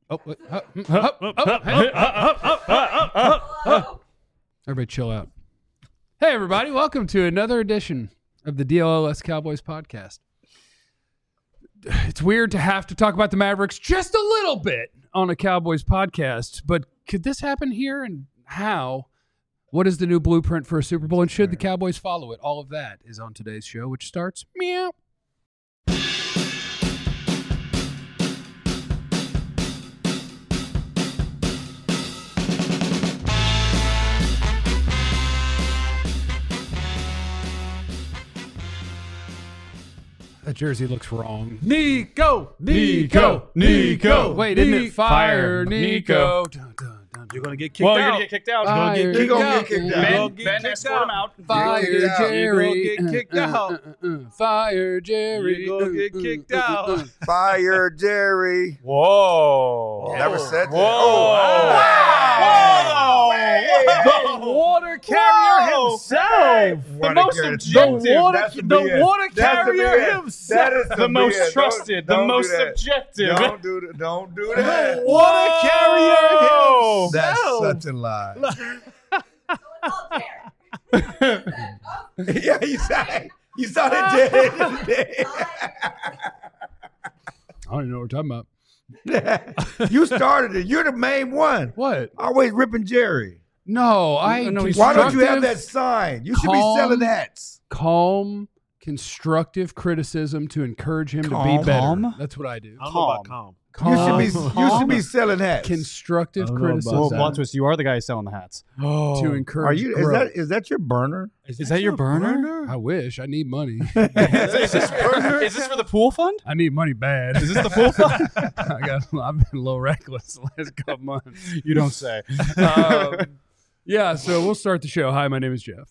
Everybody chill out. Hey, everybody. Welcome to another edition of the DLLS Cowboys podcast. It's weird to have to talk about the Mavericks just a little bit on a Cowboys podcast, but could this happen here, and how? What is the new blueprint for a Super Bowl, and should the Cowboys follow it? All of that is on today's show, which starts meow. That jersey looks wrong. Nico. Wait, isn't it fire, Nico? Dun, dun, dun, You're going to get kicked out. You're going to get kicked out. Fire, You're going to get kicked out. Ben escort him out. Fire, Jerry. You're going to get kicked out. Fire, Jerry. You're going to get kicked out. Fire Jerry. Whoa. Never said that. Whoa. The water carrier himself. The most objective. The water carrier himself. That is The most trusted. The most objective. Don't do that. The water carrier himself. That's such a lie. Yeah, you saw that, Jerry. I don't even know what we're talking about. You started it. You're the main one. What? Always ripping Jerry. No, Why don't you have that sign? You should be selling hats. Calm, constructive criticism to encourage him to be better. Calm? That's what I do. I don't know about calm. You should be selling hats. Constructive I don't know about criticism Well, plot twist, you are the guy selling the hats. to encourage growth. Is that your burner? Is that your burner? I wish. I need money. Is this for the pool fund? I need money bad. Is this the pool fund? I've been a little reckless the last couple months. You don't say. Yeah, so we'll start the show. Hi, my name is Jeff.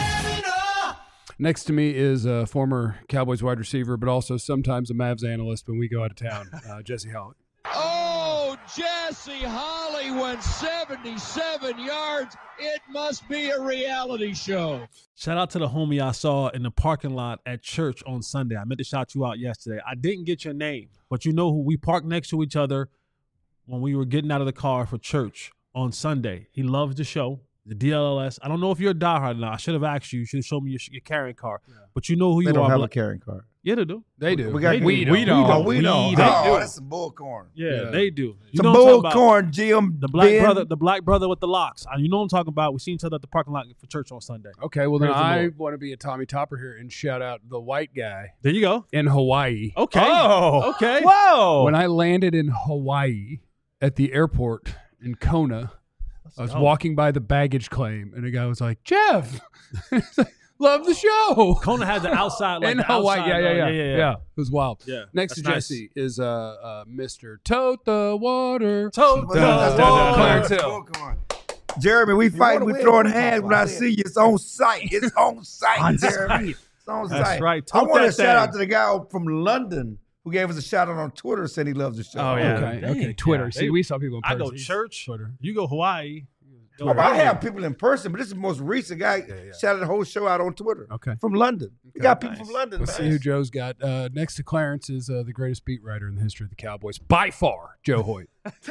Next to me is a former Cowboys wide receiver, but also sometimes a Mavs analyst when we go out of town, Jesse Hollett. Oh, Jesse Holly went 77 yards. It must be a reality show. Shout out to the homie I saw in the parking lot at church on Sunday. I meant to shout you out yesterday. I didn't get your name, but you know who we parked next to each other when we were getting out of the car for church on Sunday. He loves the show, the DLLS. I don't know if you're a diehard or not. I should have asked you. You should have shown me your carrying card. Yeah. But you know who They you don't are. have a carrying card. Yeah, they do. They do. We got we we don't. don't. We don't. We do. Oh, that's some bullcorn. Yeah, they do. You Some know what I'm talking about? bullcorn, Jim. The black Ben. brother, the black brother with the locks. You know what I'm talking about. We seen each other at the parking lot for church on Sunday. Okay, well, then Praise the I Lord. want to be a Tommy Topper here and shout out the white guy There you go. in Hawaii. Okay. Oh. Okay. Whoa. When I landed in Hawaii at the airport in Kona, I was walking by the baggage claim, and a guy was like, Jeff, love the show. Kona had the outside, like In the Hawaii, outside, yeah. It was wild. Yeah, Next to that's nice. Jesse is Mr. Tote the Water. Tote Dun, dun, dun, Clarence dun. Hill. Bullcorn. Jeremy, we fighting, we throwing hands when I see you. It's on site. It's on site, Jeremy. It's on That's site. right. I Tote want to that shout thing. out to the guy from London who gave us a shout out on Twitter, said he loves the show. Oh, yeah. Okay, dang. okay. Twitter. Yeah, See, they- we saw people in I person. go church. Twitter. You go Hawaii. Oh, but I have people in person, but this is the most recent guy shouted the whole show out on Twitter. Okay. From London. We got people from London, Let's man. see who Joe's got. Next to Clarence is the greatest beat writer in the history of the Cowboys. By far, Joe Hoyt.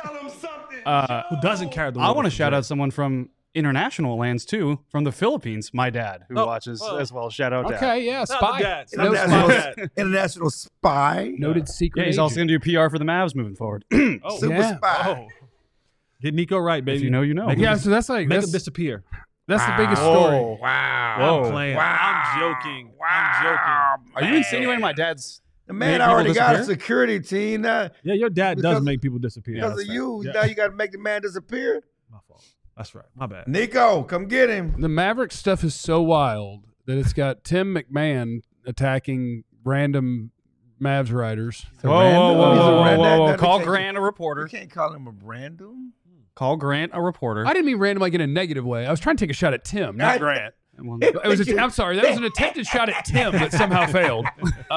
Who doesn't carry the I water want to for shout Joe. out someone from international lands, too, from the Philippines. My dad, who Oh, watches oh. as well. Shout out, Dad. Okay, yeah, Not the spy. dads. No International, spy. international spy. Noted secret Yeah, he's agent. also going to do PR for the Mavs moving forward. Oh, Super Yeah. spy. oh. Get Nico right, baby. If you know, you know. Make Yeah, him, so that's like make him that's, disappear. that's the biggest story. Wow. Whoa. I'm playing. Wow. I'm joking. I'm joking. Are you insinuating my dad's... The man Make already people got a disappear? security team now. Yeah, your dad does Because- make people disappear. Because of you, Yeah. now you got to make the man disappear. My fault. That's right. My bad. Nico, come get him. The Maverick stuff is so wild that it's got Tim McMahon attacking random Mavs writers. He's a random- he's a random- Call you can't- Grant a You reporter. can't call him a random. Call Grant a reporter. I didn't mean random like in a negative way. I was trying to take a shot at Tim, not Grant. Well, It was I'm sorry, that was an attempted shot at Tim that somehow failed.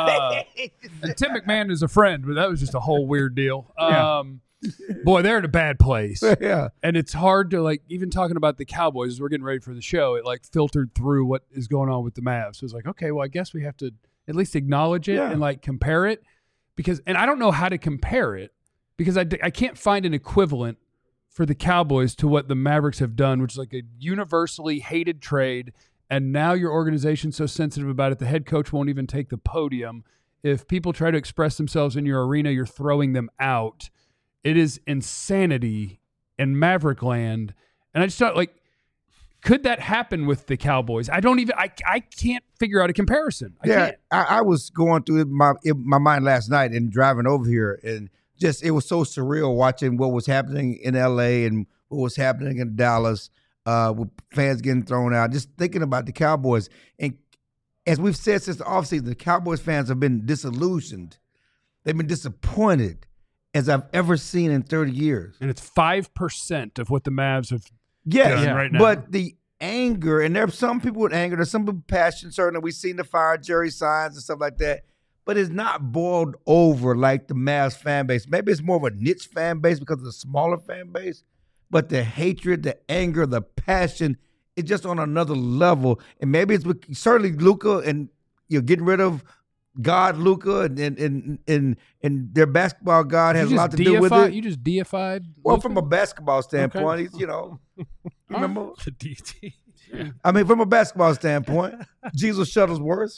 And Tim McMahon is a friend, but that was just a whole weird deal. Boy, they're in a bad place. Yeah. And it's hard to, like, even talking about the Cowboys as we're getting ready for the show, it, like, filtered through what is going on with the Mavs. So it's like, okay, well, I guess we have to at least acknowledge it Yeah. and, like, compare it. And I don't know how to compare it because I can't find an equivalent for the Cowboys to what the Mavericks have done, which is like a universally hated trade. And now your organization's so sensitive about it, the head coach won't even take the podium. If people try to express themselves in your arena, you're throwing them out. It is insanity in Maverick land. And I just thought, like, could that happen with the Cowboys? I can't figure out a comparison. I was going through my mind last night and driving over here, and just it was so surreal watching what was happening in LA and what was happening in Dallas with fans getting thrown out. Just thinking about the Cowboys. And as we've said since the offseason, the Cowboys fans have been disillusioned. They've been disappointed as I've ever seen in 30 years. And it's 5% of what the Mavs have Yes, done right now. But the anger, and there are some people with anger, there's some people with passion, certainly. We've seen the fire Jerry signs and stuff like that. But it's not boiled over like the Mavs fan base. Maybe it's more of a niche fan base because of the smaller fan base. But the hatred, the anger, the passion, it's just on another level. And maybe it's with, certainly Luka, and you're getting rid of God Luka, and their basketball God has a lot to do with it. You just deified Well, Luka? from a basketball standpoint, he's, remember? The DT. I mean, from a basketball standpoint, Jesus Shuttlesworth,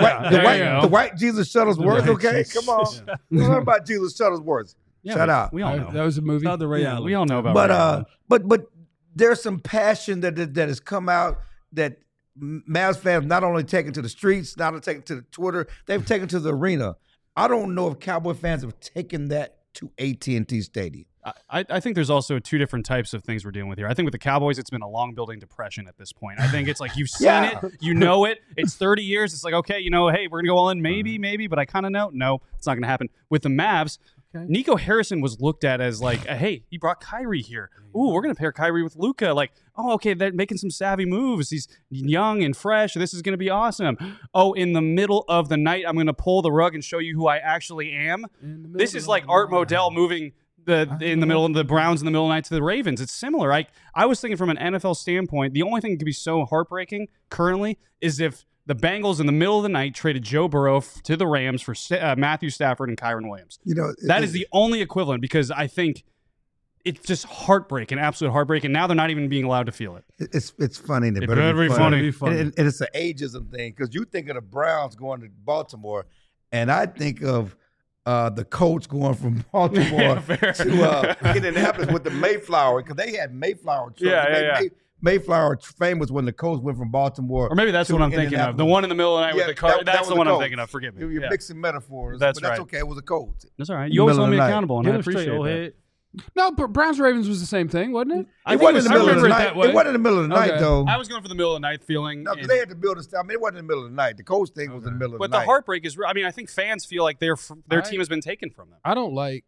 the white Jesus Shuttlesworth, okay? Come on. Learn about Jesus Shuttlesworth. Yeah, Shout out. We all know. That was a movie. Shout out to Ray Allen. We all know about Ray Allen. But there's some passion that has come out that Mavs fans not only taken to the streets, not only taken to the Twitter, they've taken to the arena. I don't know if Cowboy fans have taken that to AT&T Stadium. I think there's also two different types of things we're dealing with here. I think with the Cowboys, it's been a long building depression at this point. I think it's like you've seen it, you know it. It's 30 years. It's like, okay, hey, we're going to go all in, maybe, but I kind of know. No, it's not going to happen. With the Mavs, Nico Harrison was looked at as like, hey, he brought Kyrie here. Ooh, we're going to pair Kyrie with Luka. Like, oh, okay, they're making some savvy moves. He's young and fresh. This is going to be awesome. Oh, in the middle of the night, I'm going to pull the rug and show you who I actually am. This is like Art Modell moving in the middle of the Browns in the middle of the night to the Ravens. It's similar. I was thinking from an NFL standpoint, the only thing that could be so heartbreaking currently is if the Bengals in the middle of the night traded Joe Burrow to the Rams for Matthew Stafford and Kyron Williams. That is the only equivalent, because I think it's just heartbreak, an absolute heartbreak, and now they're not even being allowed to feel it. It's funny. It better be funny. And it's an ageism thing, because you think of the Browns going to Baltimore, and I think of the Colts going from Baltimore to Indianapolis with the Mayflower, because they had Mayflower trucks. Mayflower famous when the Colts went from Baltimore. Or maybe that's what I'm thinking of. The one in the middle of the night with the car. That's the one I'm thinking of. Forgive me. You're mixing metaphors. That's but that's right. okay. It was a Colts. That's all right. You always hold me accountable, and I appreciate it. No, but Browns Ravens was the same thing, wasn't it? It wasn't in the middle of the night. It wasn't in the middle of the night, though. I was going for the middle of the night feeling. No, because they had to build a. I mean, it wasn't in the middle of the night. The Colts thing was in the middle of the night. But the heartbreak is. I mean, I think fans feel like their team has been taken from them. I don't like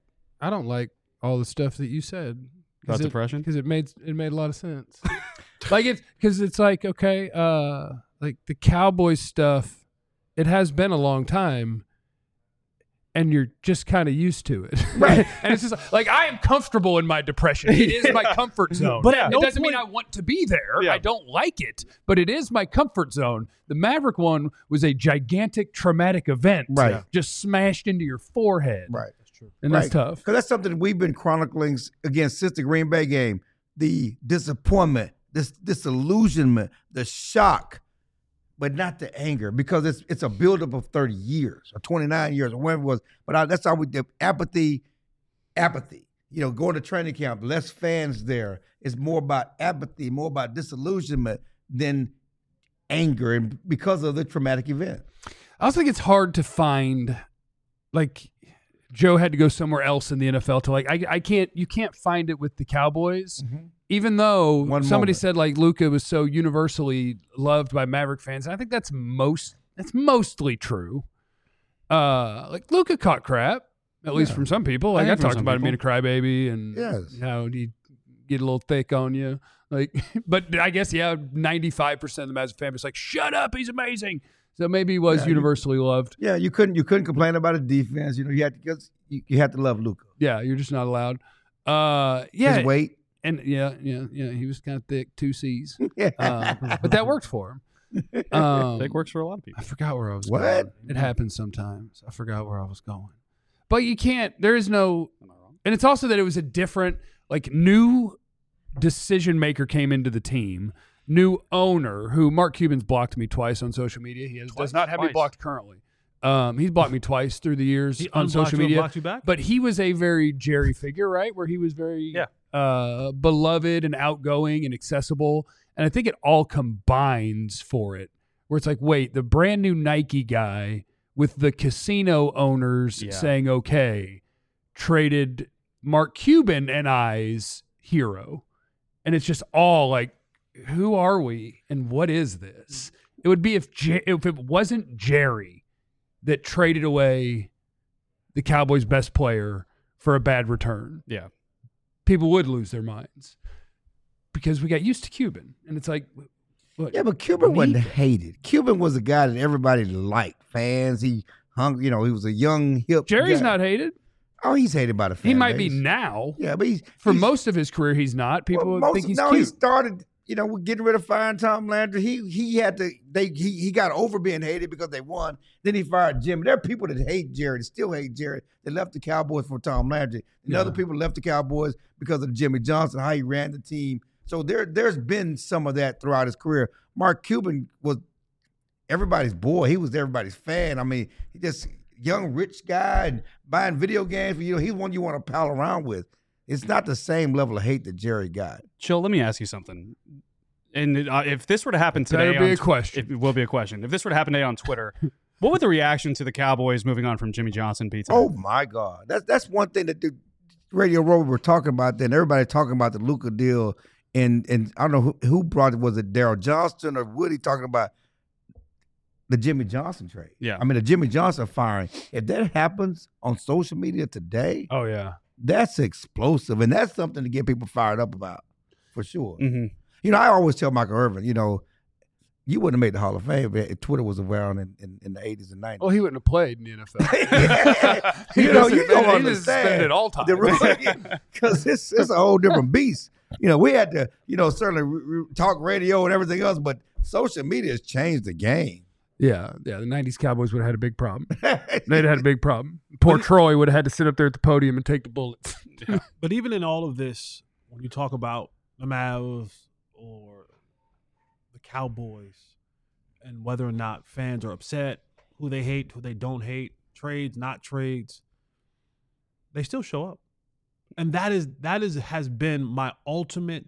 all the stuff that you said About depression, because it made a lot of sense. Like it's like, okay, like the Cowboys stuff. It has been a long time. And you're just kind of used to it. Right. And it's just like, I am comfortable in my depression. It is my comfort zone. But it doesn't mean I want to be there. Yeah. I don't like it, but it is my comfort zone. The Maverick one was a gigantic traumatic event. Right. Just smashed into your forehead. Right. That's true. And that's tough. Because that's something we've been chronicling again since the Green Bay game. The disappointment, this disillusionment, the shock, but not the anger, because it's a buildup of 30 years or 29 years or whatever it was. But that's how we did apathy. Going to training camp, less fans there. It's more about apathy, more about disillusionment than anger, and because of the traumatic event. I also think it's hard to find, like, Joe had to go somewhere else in the NFL to you can't find it with the Cowboys. Mm-hmm. Even though somebody said like Luka was so universally loved by Maverick fans, and I think that's mostly true. Like Luka caught crap, at least from some people. Like I talked about him being a crybaby and how he'd get a little thick on you. Like, but I guess 95% of the Mavs fan was like, "Shut up, he's amazing." So maybe he was universally loved. Yeah, you couldn't complain about his defense. You had to love Luka. Yeah, you're just not allowed. His weight. And he was kind of thick, 2 C's. But that worked for him. Thick works for a lot of people. I forgot where I was going. It happens sometimes. I forgot where I was going. But you can't. There is no. And it's also that it was a different, like, new decision maker came into the team, new owner who Mark Cuban's blocked me twice on social media. He does not have me blocked currently. He's blocked me twice through the years on social media. Blocked you back? But he was a very Jerry figure, right? Where he was very beloved and outgoing and accessible. And I think it all combines for it. Where it's like, wait, the brand new Nike guy with the casino owners saying, okay, traded Mark Cuban and I's hero. And it's just all like, who are we and what is this? It would be if it wasn't Jerry that traded away the Cowboys' best player for a bad return. Yeah. People would lose their minds because we got used to Cuban. And it's like, look, Yeah, but Cuban wasn't hated. Cuban was a guy that everybody liked. Fans, he hung, he was a young, hip Jerry's guy. not hated. Oh, he's hated by the fan He might be base. now. Yeah, but he's Most of his career, he's not. People think he's he cute. started, we're getting rid of firing Tom Landry. He had to. He got over being hated because they won. Then he fired Jim. There are people that hate Jerry, that still hate Jerry. They left the Cowboys for Tom Landry, and other people left the Cowboys because of Jimmy Johnson, how he ran the team. So there's been some of that throughout his career. Mark Cuban was everybody's boy. He was everybody's fan. I mean, he just young rich guy and buying video games. He's one you want to pal around with. It's not the same level of hate that Jerry got. Chill, let me ask you something. And if this were to happen today, That'll be a question. It will be a question. If this were to happen today on Twitter, what would the reaction to the Cowboys moving on from Jimmy Johnson be today? Oh my God, that's one thing that the Radio Row were talking about. Then everybody talking about the Luka deal, and I don't know who brought it. Was it Daryl Johnston or Woody talking about the Jimmy Johnson trade? Yeah. I mean the Jimmy Johnson firing. If that happens on social media today, Oh, yeah. that's explosive, and that's something to get people fired up about for sure. Mm-hmm. I always tell Michael Irvin, you wouldn't have made the Hall of Fame if Twitter was around in the 80s and 90s. Well, he wouldn't have played in the NFL. You don't understand. He just spent it all time. Because it's a whole different beast. We had to, certainly talk radio and everything else, but social media has changed the game. Yeah. The 90s Cowboys would have had a big problem. They'd had a big problem. Poor Troy would have had to sit up there at the podium and take the bullets. But even in all of this, when you talk about the Mavs or the Cowboys and whether or not fans are upset, who they hate, who they don't hate, trades, not trades, they still show up. And that has been my ultimate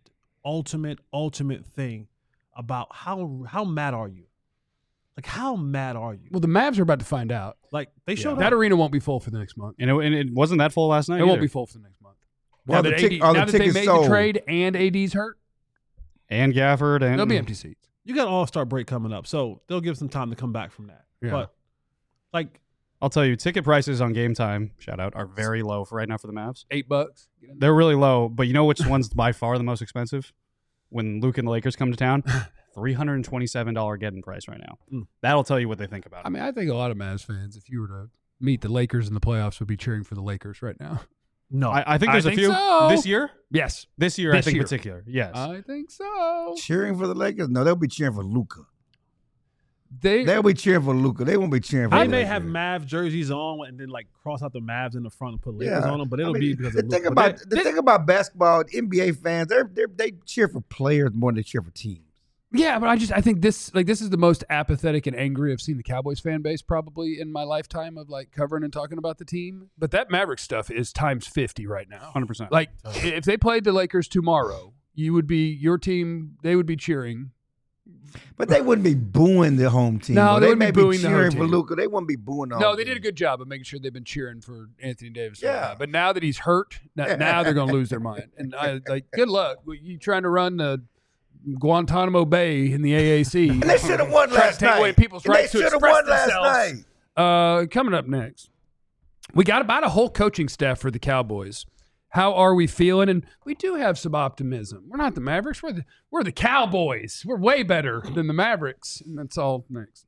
thing about how mad are you? Like, how mad are you? Well, the Mavs are about to find out. Like, they showed up. That arena won't be full for the next month. And it wasn't that full last night. It won't either. be full for the next month. Well, now the that they tickets made sold. the trade and AD's hurt, And Gafford and there'll be empty seats. You got All-Star break coming up, so they'll give some time to come back from that. Yeah. But, like, I'll tell you, ticket prices on Game Time, shout out, are very low for right now for the Mavs. $8. They're really low, but you know which one's by far the most expensive? When Luke and the Lakers come to town, $327 getting price right now. That'll tell you what they think about it. I mean, I think a lot of Mavs fans, if you were to meet the Lakers in the playoffs, would be cheering for the Lakers right now. no. I think there's I a think few so. this year. Yes. This year, I think in particular. Yes. I think so. Cheering for the Lakers? No, they'll be cheering for Luka. They They'll be cheering for Luka. They won't be cheering for They the may Lakers. have Mavs jerseys on and then, like, cross out the Mavs in the front and put Lakers Yeah. on them, but it'll I mean, be because the of thing Luka. about the thing about basketball, NBA fans, they cheer for players more than they cheer for teams. Yeah, but I think this is the most apathetic and angry I've seen the Cowboys fan base probably in my lifetime of like covering and talking about the team. But that Maverick stuff is times 50 right now. 100%. Like if they played the Lakers tomorrow, your team, they would be cheering. But they wouldn't be booing the home team. No, though. they They wouldn't may be booing the home cheering for team. Luka. They wouldn't be booing the home No, they team. did a good job of making sure they've been cheering for Anthony Davis. Yeah. But now that he's hurt, now they're going to lose their mind. And good luck. You trying to run the Guantanamo Bay in the AAC. And they should have won Try to last take night. away people's And rights they to should have express won last themselves. night. Coming up next, we got about a whole coaching staff for the Cowboys. How are we feeling? And we do have some optimism. We're not the Mavericks. We're the Cowboys. We're way better than the Mavericks. And that's all next.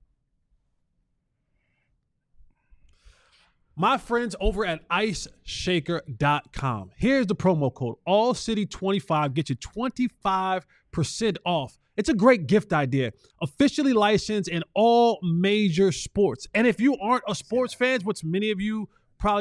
My friends over at IceShaker.com. Here's the promo code, AllCity25. Get you 25% off. It's a great gift idea. Officially licensed in all major sports. And if you aren't a sports fan, which many of you probably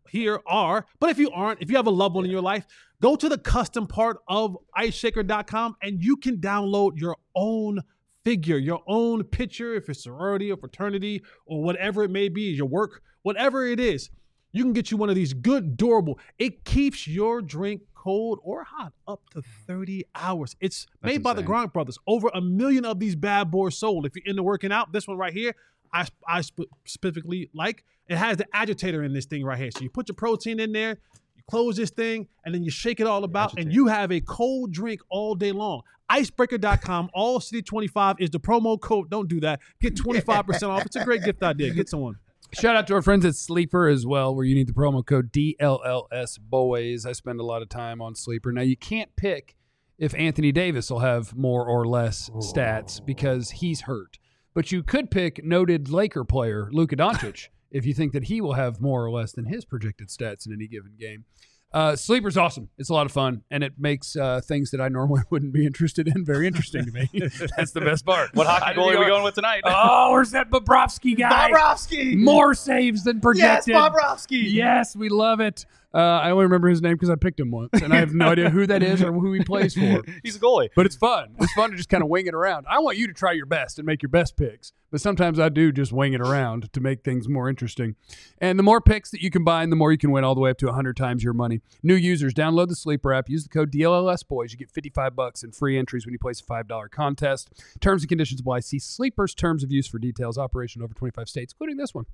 here are, but if you aren't, if you have a loved one in your life, go to the custom part of iceshaker.com and you can download your own figure, your own picture, if it's sorority or fraternity or whatever it may be, your work, whatever it is. You can get you one of these good, durable. It keeps your drink cold or hot up to 30 hours. It's made by the insane. Gronk brothers. Over 1 million of these bad boys sold. If you're into working out, this one right here, I specifically like. It has the agitator in this thing right here. So you put your protein in there, you close this thing, and then you shake it all about, and you have a cold drink all day long. Icebreaker.com, all City 25 is the promo code. Don't do that. Get 25% off. It's a great gift idea. Get someone. Shout out to our friends at Sleeper as well, where you need the promo code DLLS Boys. I spend a lot of time on Sleeper. Now, you can't pick if Anthony Davis will have more or less stats because he's hurt. But you could pick noted Laker player Luka Doncic if you think that he will have more or less than his projected stats in any given game. Sleeper's awesome. It's a lot of fun, and it makes things that I normally wouldn't be interested in very interesting to me. That's the best part. What hockey goalie are we going with tonight? Oh, where's that Bobrovsky guy? Bobrovsky! More saves than projected. Yes, Bobrovsky! Yes, we love it. I only remember his name because I picked him once, and I have no idea who that is or who he plays for. He's a goalie. But it's fun. It's fun to just kind of wing it around. I want you to try your best and make your best picks, but sometimes I do just wing it around to make things more interesting. And the more picks that you combine, the more you can win, all the way up to 100 times your money. New users, download the Sleeper app. Use the code DLLSBOYS. You get $55 in free entries when you place a $5 contest. Terms and conditions apply. See Sleeper's terms of use for details. Operation over 25 states, including this one.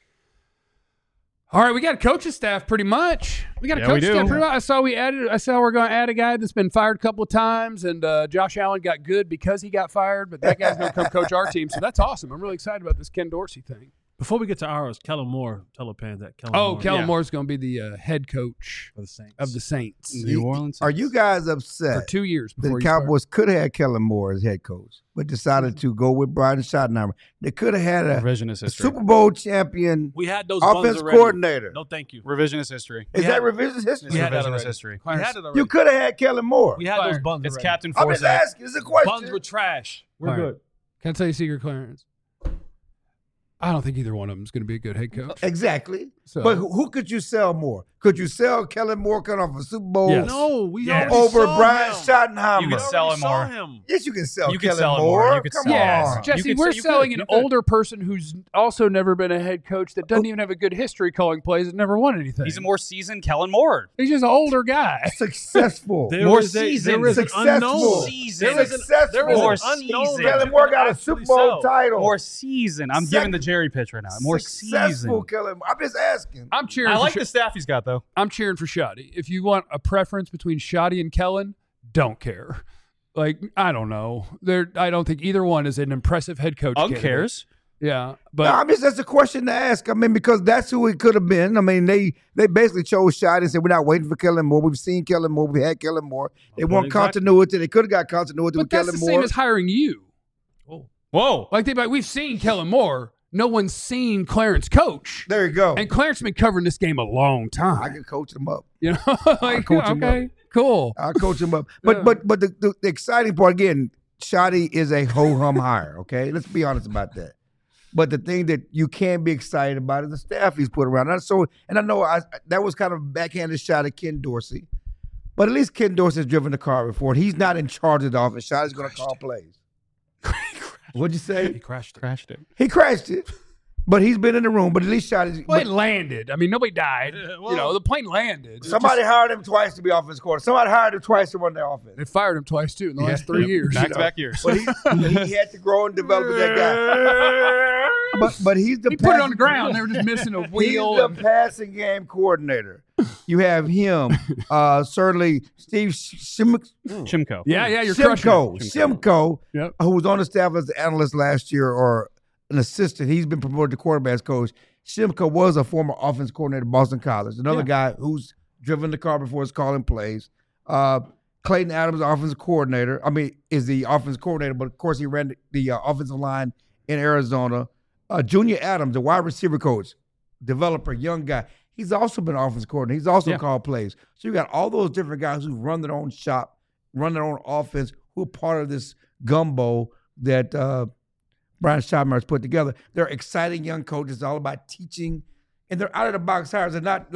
All right, we got a coaching staff pretty much. We got a coaching staff pretty much. I saw we're going to add a guy that's been fired a couple of times, and Josh Allen got good because he got fired, but that guy's going to come coach our team, so that's awesome. I'm really excited about this Ken Dorsey thing. Before we get to ours, Kellen Moore, tell the fans that Kellen Moore. Kellen Moore's going to be the head coach of the Saints. New Orleans. Are you guys upset for 2 years that before the Cowboys could have had Kellen Moore as head coach, but decided to go with Brian Schottenheimer? They could have had a Revisionist history. Super Bowl champion We had those offense buns already. coordinator. No, thank you. Revisionist history. Is that revisionist history? We had that Revisionist already. history. We had it already. You could have had Kellen Moore. We had those buns It's already. Captain I'm just Forsyth. asking. It's a question. Buns were trash. We're All right. good. Can I tell you a secret, Clarence? I don't think either one of them is going to be a good head coach. Exactly. So- But who could you sell more? Could you sell Kellen Moore coming off a Super Bowl Yes. No, we Yes. already over saw Brian him. Schottenheimer? You could sell him more. Him. Yes, you can sell You could Kellen sell him Moore. more. You could Come sell him Yes, more. Jesse, You could we're say- you selling could. an older person who's also never been a head coach that doesn't even have a good history calling plays and never won anything. He's a more seasoned Kellen Moore. He's just an older guy. Successful. More is a- seasoned. There is an Successful. unknown. Seasoned. There is an Successful. unknown. More Kellen Moore got a Super Bowl title. More seasoned. I'm giving the Jerry pitch right now. More Successful seasoned. Kellen Moore. I'm just asking. I'm cheering. I for like Sh- the staff he's got, though. I'm cheering for Shoddy. If you want a preference between Shoddy and Kellen, don't care. Like, I don't know. I don't think either one is an impressive head coach. Ugg candidate. cares. Yeah, but No, I mean, that's a question to ask. I mean, because that's who it could have been. I mean, they basically chose Shoddy and said, we're not waiting for Kellen Moore. We've seen Kellen Moore. We had Kellen Moore. They want exactly. continuity. They could have got continuity but with that's Kellen the Moore. same as hiring you. Whoa. Like we've seen Kellen Moore. No one's seen Clarence coach. There you go. And Clarence has been covering this game a long time. I can coach them up. You know, like, coach him okay, cool. I'll coach him up. But Yeah. but the exciting part, again, Shoddy is a ho-hum hire, okay? Let's be honest about that. But the thing that you can be excited about is the staff he's put around. And I know that was kind of a backhanded shot at Ken Dorsey. But at least Ken Dorsey has driven the car before. And he's not in charge of the offense. Shoddy's going to call plays. What'd you say? He crashed it. Crashed it. He crashed it. But he's been in the room. But at least Shoddy's. Well, it landed. I mean, nobody died. The plane landed. Somebody hired him twice to be offense coordinator. Somebody hired him twice to run their offense. They fired him twice too in the last 3 years. Back-to-back years. But he had to grow and develop with that guy. But he's the He put it on the ground. They were just missing a He's wheel. the passing game coordinator. You have him, certainly Steve Shimko. Yeah, you're crushing it. Shimko, Yep. who was on the staff as an analyst last year or an assistant. He's been promoted to quarterback's coach. Shimko was a former offense coordinator at Boston College. Another guy who's driven the car before he's calling plays. Clayton Adams, offensive coordinator. Is the offensive coordinator, but of course he ran the offensive line in Arizona. Junior Adams, the wide receiver coach, developer, young guy. He's also been offensive coordinator. He's also called plays. So you got all those different guys who run their own shop, run their own offense, who are part of this gumbo that Brian Schottenheimer has put together. They're exciting young coaches. It's all about teaching. And they're out-of-the-box hires. They're not like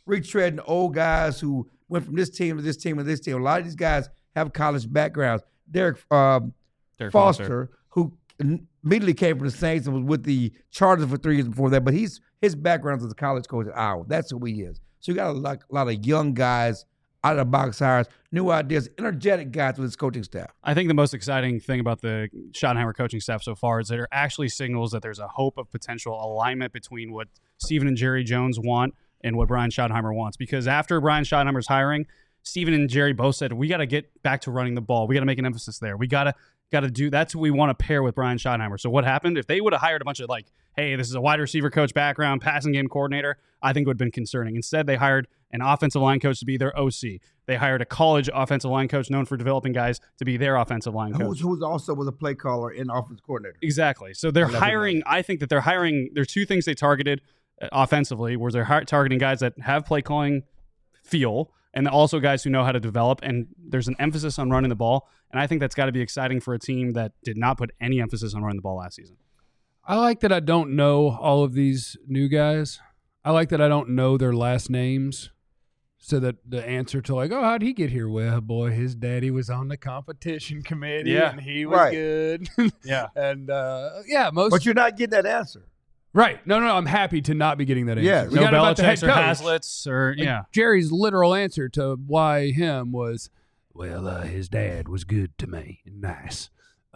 retreading old guys who went from this team to this team to this team. A lot of these guys have college backgrounds. Derek Foster, who immediately came from the Saints and was with the Chargers for 3 years before that, but his background as a college coach at Iowa. That's who he is. So you got a lot of young guys, out of the box hires, new ideas, energetic guys with his coaching staff. I think the most exciting thing about the Schottenheimer coaching staff so far is that it actually signals that there's a hope of potential alignment between what Stephen and Jerry Jones want and what Brian Schottenheimer wants. Because after Brian Schottenheimer's hiring, Stephen and Jerry both said, we got to get back to running the ball. We got to make an emphasis there. We got to do, that's what we want to pair with Brian Schottenheimer. So what happened? If they would have hired a bunch of hey, this is a wide receiver coach background, passing game coordinator, I think it would have been concerning. Instead, they hired an offensive line coach to be their OC. They hired a college offensive line coach known for developing guys to be their offensive line coach. Who also was a play caller and offensive coordinator. Exactly. So they're hiring, I think that they're hiring, there's two things they targeted offensively, where they're targeting guys that have play calling feel, and also guys who know how to develop, and there's an emphasis on running the ball. And I think that's got to be exciting for a team that did not put any emphasis on running the ball last season. I like that I don't know all of these new guys. I like that I don't know their last names, so that the answer to how'd he get here? Well, boy, his daddy was on the competition committee, and he was good. Yeah. And, But you're not getting that answer. Right. No, I'm happy to not be getting that answer. Yes. We No got about the head Belichick's or coach. Haslets or, Jerry's literal answer to why him was, his dad was good to me and nice.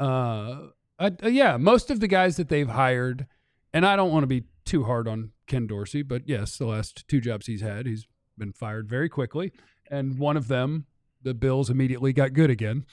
Most of the guys that they've hired, and I don't want to be too hard on Ken Dorsey, but yes, the last 2 jobs he's had, he's been fired very quickly. And one of them, the Bills immediately got good again.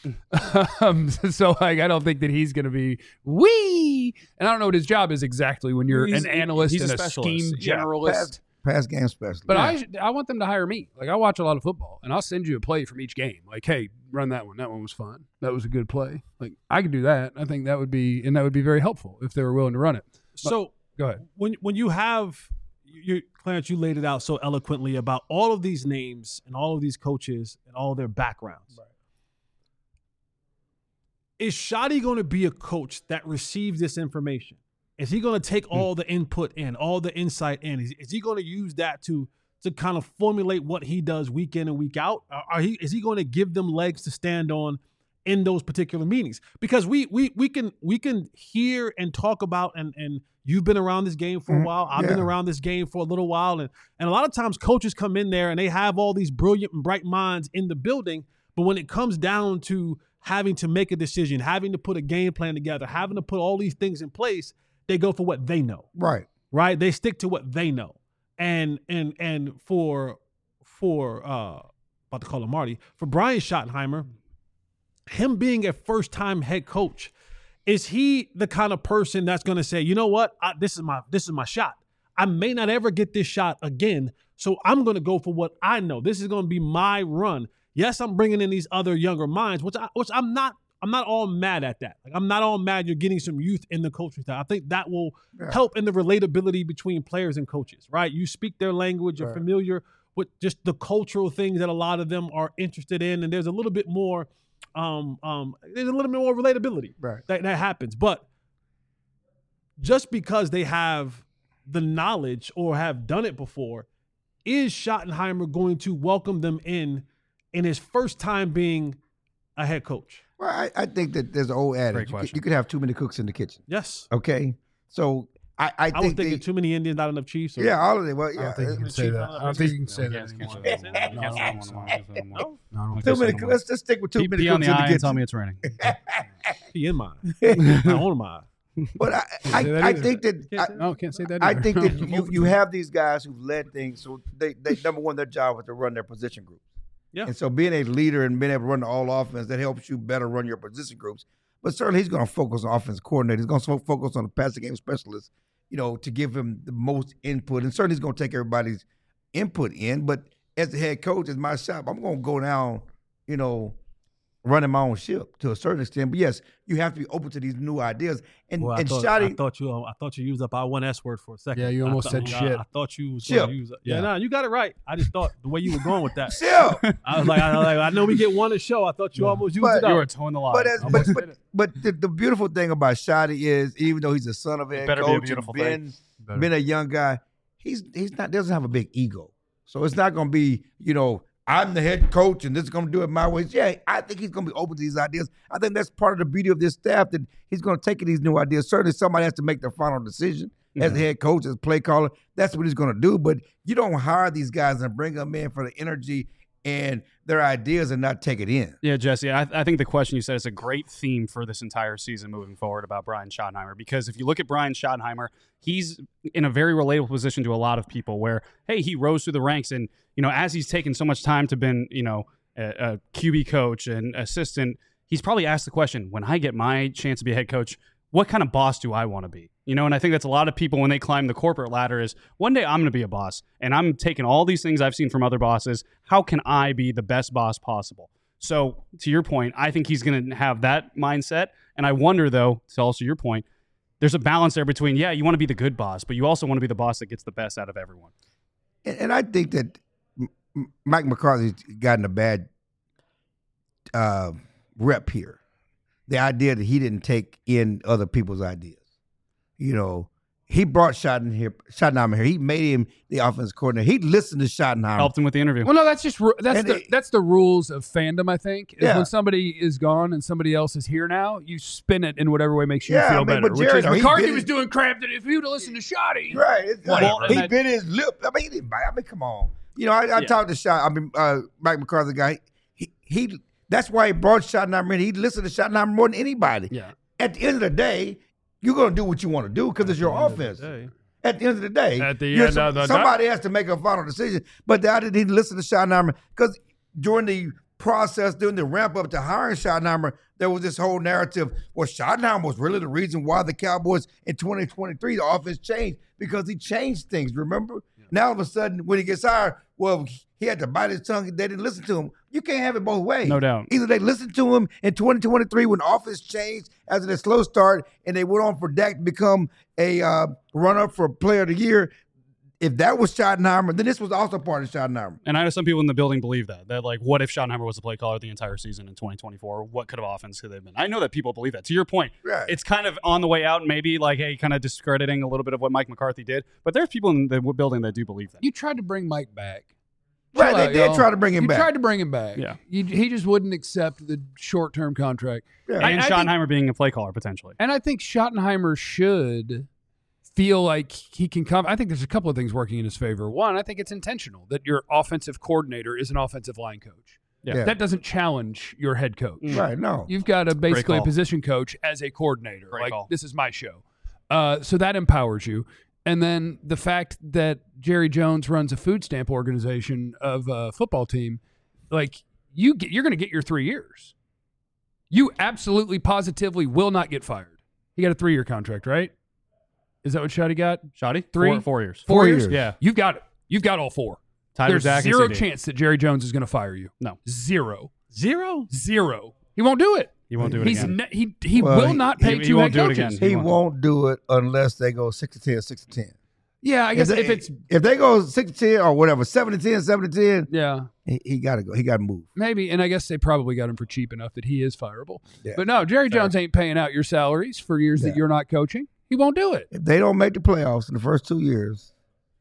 So I don't think that he's going to be and I don't know what his job is exactly when you're an analyst he's and a a specialist. scheme Yeah, generalist. Pass game specialist. But I want them to hire me. I watch a lot of football, and I'll send you a play from each game. Hey, run that one. That one was fun. That was a good play. I could do that. I think that would be very helpful if they were willing to run it. So go ahead. When you have Clarence, you laid it out so eloquently about all of these names and all of these coaches and all their backgrounds. Right. Is Shotty going to be a coach that receives this information? Is he going to take all the input in, all the insight in? Is he going to use that to kind of formulate what he does week in and week out? Is he going to give them legs to stand on in those particular meetings? Because we can hear and talk about, and you've been around this game for a while. I've been around this game for a little while. And a lot of times coaches come in there and they have all these brilliant and bright minds in the building. But when it comes down to having to make a decision, having to put a game plan together, having to put all these things in place, they go for what they know. Right. They stick to what they know. And for about to call him Marty, for Brian Schottenheimer, him being a first-time head coach, is he the kind of person that's going to say, you know what, this is my shot. I may not ever get this shot again, so I'm going to go for what I know. This is going to be my run. Yes, I'm bringing in these other younger minds, which I'm not all mad at that. I'm not all mad you're getting some youth in the coaching staff. I think that will help in the relatability between players and coaches, right? You speak their language, you're familiar with just the cultural things that a lot of them are interested in, and there's a little bit more relatability that happens. But just because they have the knowledge or have done it before, is Schottenheimer going to welcome them in his first time being a head coach? Well, I think that there's an old adage. You could have too many cooks in the kitchen. Yes. Okay. So I was thinking too many Indians, not enough Chiefs. All of them. Well, I don't think you can say that. I don't think you can say that anymore. Too many. Let's just stick with too many Pee on cooks the in the eye and kitchen. tell me it's raining. Pee in mine. I own mine. But I think that No, can't say that I either. think that you have these guys who've led things. So they number one, their job was to run their position groups. Yeah. And so being a leader and being able to run the all offense, that helps you better run your position groups. But certainly he's going to focus on offense coordinator. He's going to focus on the passing game specialist, to give him the most input. And certainly he's going to take everybody's input in. But as the head coach, as my shop, I'm going to go down, running my own ship to a certain extent. But yes, you have to be open to these new ideas. And I Shotty, thought you used up our one S word for a second. Yeah, you almost said shit. I thought you was going to use it. Yeah, you got it right. I just thought the way you were going with that. ship. I was like, I know we get one a show. I thought you almost used it up. You were towing the line. But the beautiful thing about Shotty is, even though he's a son of a head better be a coach beautiful and been a young guy, he's not doesn't have a big ego. So it's not going to be, I'm the head coach and this is going to do it my way. Yeah, I think he's going to be open to these ideas. I think that's part of the beauty of this staff, that he's going to take these new ideas. Certainly somebody has to make the final decision as the head coach, as play caller. That's what he's going to do. But you don't hire these guys and bring them in for the energy and their ideas and not take it in. Yeah, Jesse, I think the question you said is a great theme for this entire season moving forward about Brian Schottenheimer, because if you look at Brian Schottenheimer, he's in a very relatable position to a lot of people where, hey, he rose through the ranks, and, as he's taken so much time to been, a QB coach and assistant, he's probably asked the question, when I get my chance to be a head coach, what kind of boss do I want to be? And I think that's a lot of people when they climb the corporate ladder is, one day I'm going to be a boss, and I'm taking all these things I've seen from other bosses. How can I be the best boss possible? So to your point, I think he's going to have that mindset. And I wonder, though, to also your point, there's a balance there between, yeah, you want to be the good boss, but you also want to be the boss that gets the best out of everyone. And I think that Mike McCarthy's gotten a bad rep here. The idea that he didn't take in other people's ideas. He brought Schottenheimer here. He made him the offensive coordinator. He listened to Schottenheimer. Helped him with the interview. Well, no, that's the rules of fandom, I think. Is Yeah. when somebody is gone and somebody else is here now, you spin it in whatever way makes you Yeah, feel I mean, better. but Which Jerry, is though, he McCarthy bit was it. doing crap that if he would have listened to Shoddy. Right. It's like, Well, and he that- bit his lip. I mean, he didn't bite. I mean, come on. I talked to Mike McCarthy guy. He that's why he brought Schottenheimer in. He listened to Schottenheimer more than anybody. Yeah. At the end of the day, you're going to do what you want to do because it's your offense. At the end of the day, At the end of the somebody has to make a final decision. But I didn't listen to Schottenheimer because during the process, during the ramp up to hiring Schottenheimer, there was this whole narrative. Well, Schottenheimer was really the reason why the Cowboys in 2023 the offense changed, because he changed things. Remember? Yeah. Now all of a sudden, when he gets hired, well, he had to bite his tongue. They didn't listen to him. You can't have it both ways. No doubt. Either they listened to him in 2023 when offense changed after the slow start, and they went on for Dak to become a runner for Player of the Year. If that was Schottenheimer, then this was also part of Schottenheimer. And I know some people in the building believe that like, what if Schottenheimer was the play caller the entire season in 2024? What could have offense could they have been? I know that people believe that. To your point, Right. It's kind of on the way out, and maybe like, hey, kind of discrediting a little bit of what Mike McCarthy did. But there's people in the building that do believe that. You tried to bring Mike back. Right, Chill they out, did y'all. try to bring him You back. tried to bring him back. Yeah. He just wouldn't accept the short-term contract. Yeah. And I think- Schottenheimer being a play caller potentially. And I think Schottenheimer should feel like he can come. I think there's a couple of things working in his favor. One, I think it's intentional that your offensive coordinator is an offensive line coach. Yeah. That doesn't challenge your head coach. Right, no. You've got a basically a call. position coach as a coordinator. Great like, call. this is my show. So that empowers you. And then the fact that Jerry Jones runs a food stamp organization of a football team, like you're going to get your 3 years. You absolutely, positively will not get fired. He got a 3-year contract, right? Is that what Shotty got? Shotty? 3? 4 years. 4 years? years. Yeah. You've got it. You've got all 4. Tyler There's Zach and zero CD. chance that Jerry Jones is going to fire you. No. Zero. Zero? He won't do it. He won't do it He's again. he Well, will not pay he two won't head do it coaches. again. He won't do it unless they go 6-10, 6-10. Yeah, I guess if it's if they go 6-10 or whatever, 7-10, 7-10, yeah. he got to go. He got to move. Maybe, and I guess they probably got him for cheap enough that he is fireable. Yeah. But no, Jerry Jones ain't paying out your salaries for years that Yeah. you're not coaching. He won't do it. If they don't make the playoffs in the first 2 years,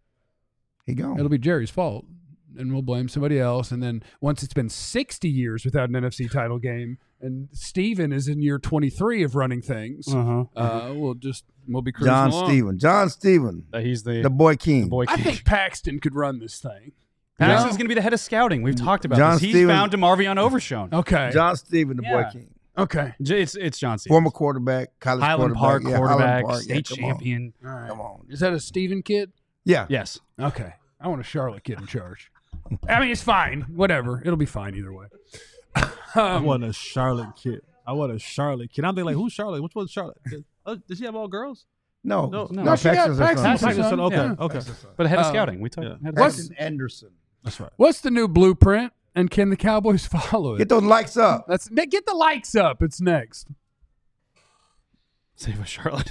he gone. It'll be Jerry's fault, and we'll blame somebody else. And then once it's been 60 years without an NFC title game, and Steven is in year 23 of running things, Uh-huh. we'll be cruising along. John Steven, He's the the boy king. boy I king. think Paxton could run this thing. Paxton's going to be the head of scouting. We've talked about John this. He's Stevens- found DeMarvion Overshown. Okay. John Steven, the boy Yeah. king. Okay. It's John Stevens. Former quarterback, college Highland Park quarterback. quarterback, Highland Park. state come on. champion. All right. Come on. Is that a Steven kid? Yeah. Yes. Okay. I want a Charlotte kid in charge. I mean, it's fine. Whatever. It'll be fine either way. I want a Charlotte kid. I'm thinking like, who's Charlotte? Which one's Charlotte? Does she have all girls? No. No, No, she got Paxton's her son. Paxton's her Paxton's son. okay, Yeah. okay. But the head of Um, scouting. We talked. yeah. head of What's- scouting. Paxton Anderson. That's right. What's the new blueprint, and can the Cowboys follow it? Get those likes up. Get the likes up. It's next. Save a Charlotte.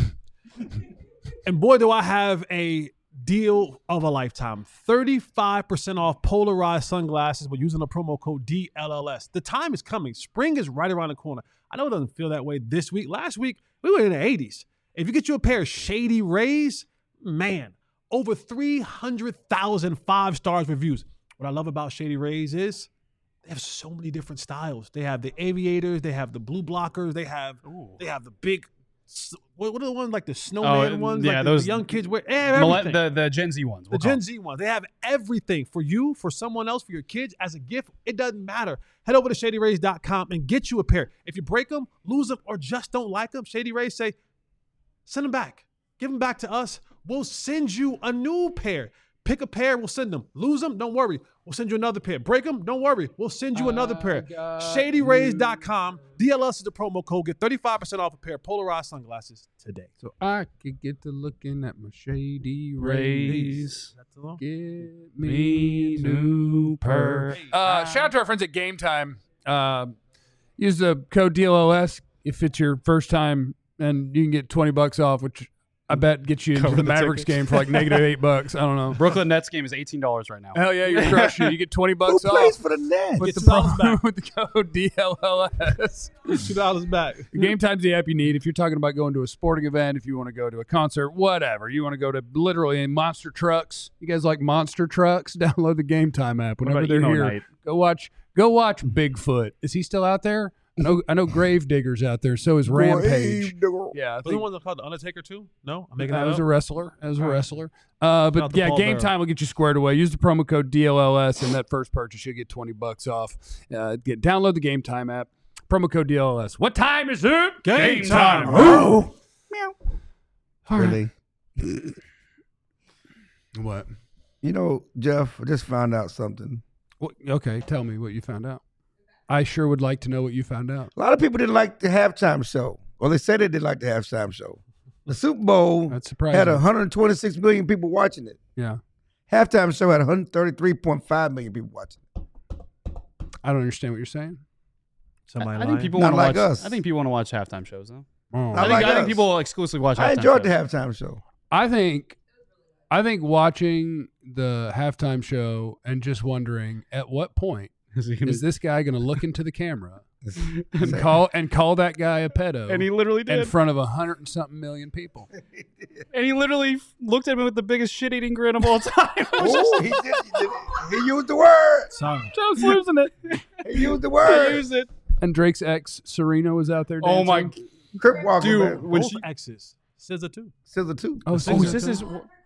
And boy, do I have a deal of a lifetime. 35% off polarized sunglasses with using the promo code DLLS. The time is coming. Spring is right around the corner. I know it doesn't feel that way this week. Last week, we were in the 80s. If you get you a pair of Shady Rays, man, over 300,000 5-star reviews. What I love about Shady Rays is they have so many different styles. They have the aviators, they have the blue blockers, they have the big. What are the ones like the snowman ones? Yeah, like those the young kids wear. Everything. The Gen Z ones. The Gen Z ones. They have everything for you, for someone else, for your kids, as a gift. It doesn't matter. Head over to ShadyRays.com and get you a pair. If you break them, lose them, or just don't like them, Shady Rays say, send them back. Give them back to us. We'll send you a new pair. Pick a pair, we'll send them. Lose them, don't worry. We'll send you another pair. Break them, don't worry. We'll send you another pair. ShadyRays.com. DLS is the promo code. Get 35% off a pair of polarized sunglasses today. So I could get to looking at my Shady Rays. That's the one. Get me new pair. Shout out to our friends at Game Time. Use the code DLLS if it's your first time, and you can get $20 off, which I bet gets you into the Mavericks game for like -$8. I don't know. Brooklyn Nets game is $18 right now. Hell yeah, you're crushing it. You get $20 Who off. plays for the Nets? With Get the, $2 back. with the code DLLS. $2 back. Game Time's the app you need if you're talking about going to a sporting event, if you want to go to a concert, whatever. You want to go to literally monster trucks. You guys like monster trucks? Download the Game Time app whenever about they're emo here. night? Go watch Bigfoot. Is he still out there? I know Gravedigger's out there. So is Rampage. Yeah, I Was the think one called The Undertaker too? No? I'm making that that was up. a wrestler. Out But the yeah, Paul Game Bearer. Time will get you squared away. Use the promo code DLLS, and that first purchase you'll get $20 off. Download the Game Time app. Promo code DLLS. What time is it? Game time. Oh, All right. really? What? You know, Jeff, I just found out something. Okay, tell me what you found out. I sure would like to know what you found out. A lot of people didn't like the halftime show. Well, they said they didn't like the halftime show. The Super Bowl That's surprising. had 126 million people watching it. Yeah. Halftime show had 133.5 million people watching it. I don't understand what you're saying. Somebody I think lying? people Not want to like watch. us. I think people want to watch halftime shows though. Oh. Not I like think us. people exclusively watch. I halftime enjoyed the shows. halftime show. I think watching the halftime show and just wondering at what point is this guy going to look into the camera and call that guy a pedo And he literally in did. front of 100 and something million people. And he literally looked at me with the biggest shit-eating grin of all time. I was Oh, he did. He used the word. Sorry. just losing it. He used the I word. used it. And Drake's ex Serena was out there dancing. Oh my, Crip Walker, dude! man. When Both she, exes. SZA too. Scissor too. Oh, oh, SZA this too? is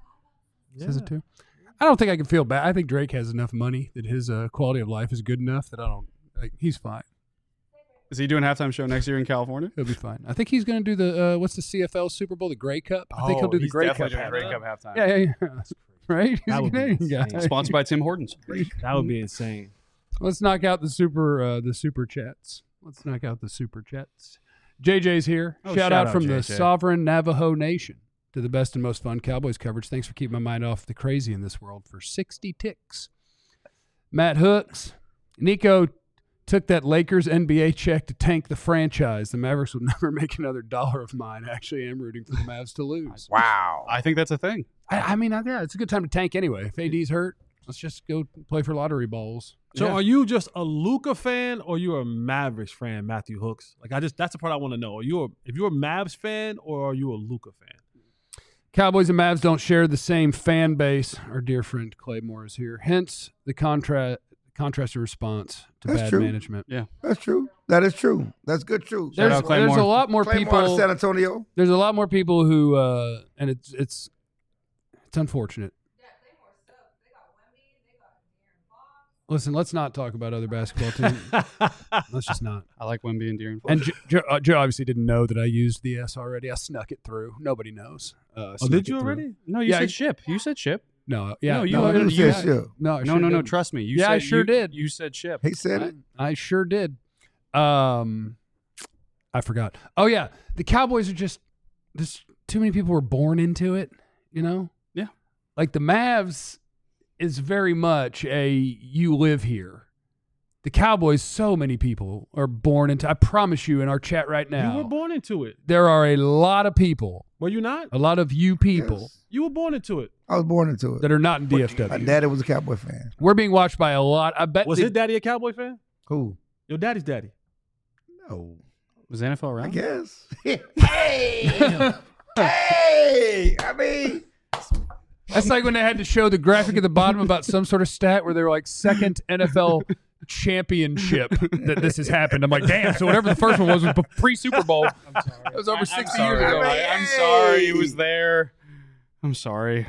SZA too. I don't think I can feel bad. I think Drake has enough money that his quality of life is good enough that I don't. Like, he's fine. is he doing a halftime show next year in California? He'll be fine. I think he's going to do the what's the CFL Super Bowl, the Grey Cup. I think he'll do the He's Grey Cup. definitely doing a Grey halftime. Cup halftime. Yeah. Right? He's That a would be Canadian guy. insane. Sponsored by Tim Hortons. That would be insane. Let's knock out the super chats. Let's knock out the super chats. JJ's here. Oh, shout out from the JJ. sovereign Navajo Nation to the best and most fun Cowboys coverage. Thanks for keeping my mind off the crazy in this world for 60 ticks. Matt Hooks. Nico took that Lakers NBA check to tank the franchise. The Mavericks will never make another dollar of mine. Actually, I'm rooting for the Mavs to lose. Wow. I think that's a thing. I mean, yeah, it's a good time to tank anyway. If AD's hurt, let's just go play for lottery balls. So Yeah. are you just a Luka fan or you a Mavericks fan, Matthew Hooks? Like that's the part I want to know. If you're a Mavs fan or are you a Luka fan? Cowboys and Mavs don't share the same fan base. Our dear friend Claymore is here. Hence the contrasted response to That's bad true. management. That's true. That is true. That's good truth. Shout There's, out Claymore. there's a lot more Claymore out of people. San Antonio. There's a lot more people who, and it's unfortunate. Listen, let's not talk about other basketball teams. Let's just not. I like Wemby and De'Aaron. And Joe obviously didn't know that I used the S already. I snuck it through. Nobody knows. Oh, Snuck did it you through. already? No, you Yeah, said ship. You said ship. No, yeah. No, you no, already- You you- said shit. no, I No, sure no, no. didn't. Trust me. You Yeah, said, I sure you, did. You said ship. He said it. I sure did. I forgot. Oh yeah, the Cowboys are just too many people were born into it. You know. Yeah. Like the Mavs is very much a you live here. The Cowboys, so many people are born into. I promise you, in our chat right now, You were born into it. there are a lot of people, Were you not? a lot of you people Yes. You were born into it. I was born into it. that are not in My DFW. daddy was a Cowboy fan. We're being watched by a lot. I bet. Was his daddy a Cowboy fan? Who? Your daddy's daddy. No. Was NFL I around? guess. Hey! Hey! I mean, That's like when they had to show the graphic at the bottom about some sort of stat where they were like second NFL championship that this has happened. I'm like, damn. So whatever the first one was pre-Super Bowl. I'm sorry. That was over 60 I'm years sorry. ago. I'm sorry. He was there. I'm sorry.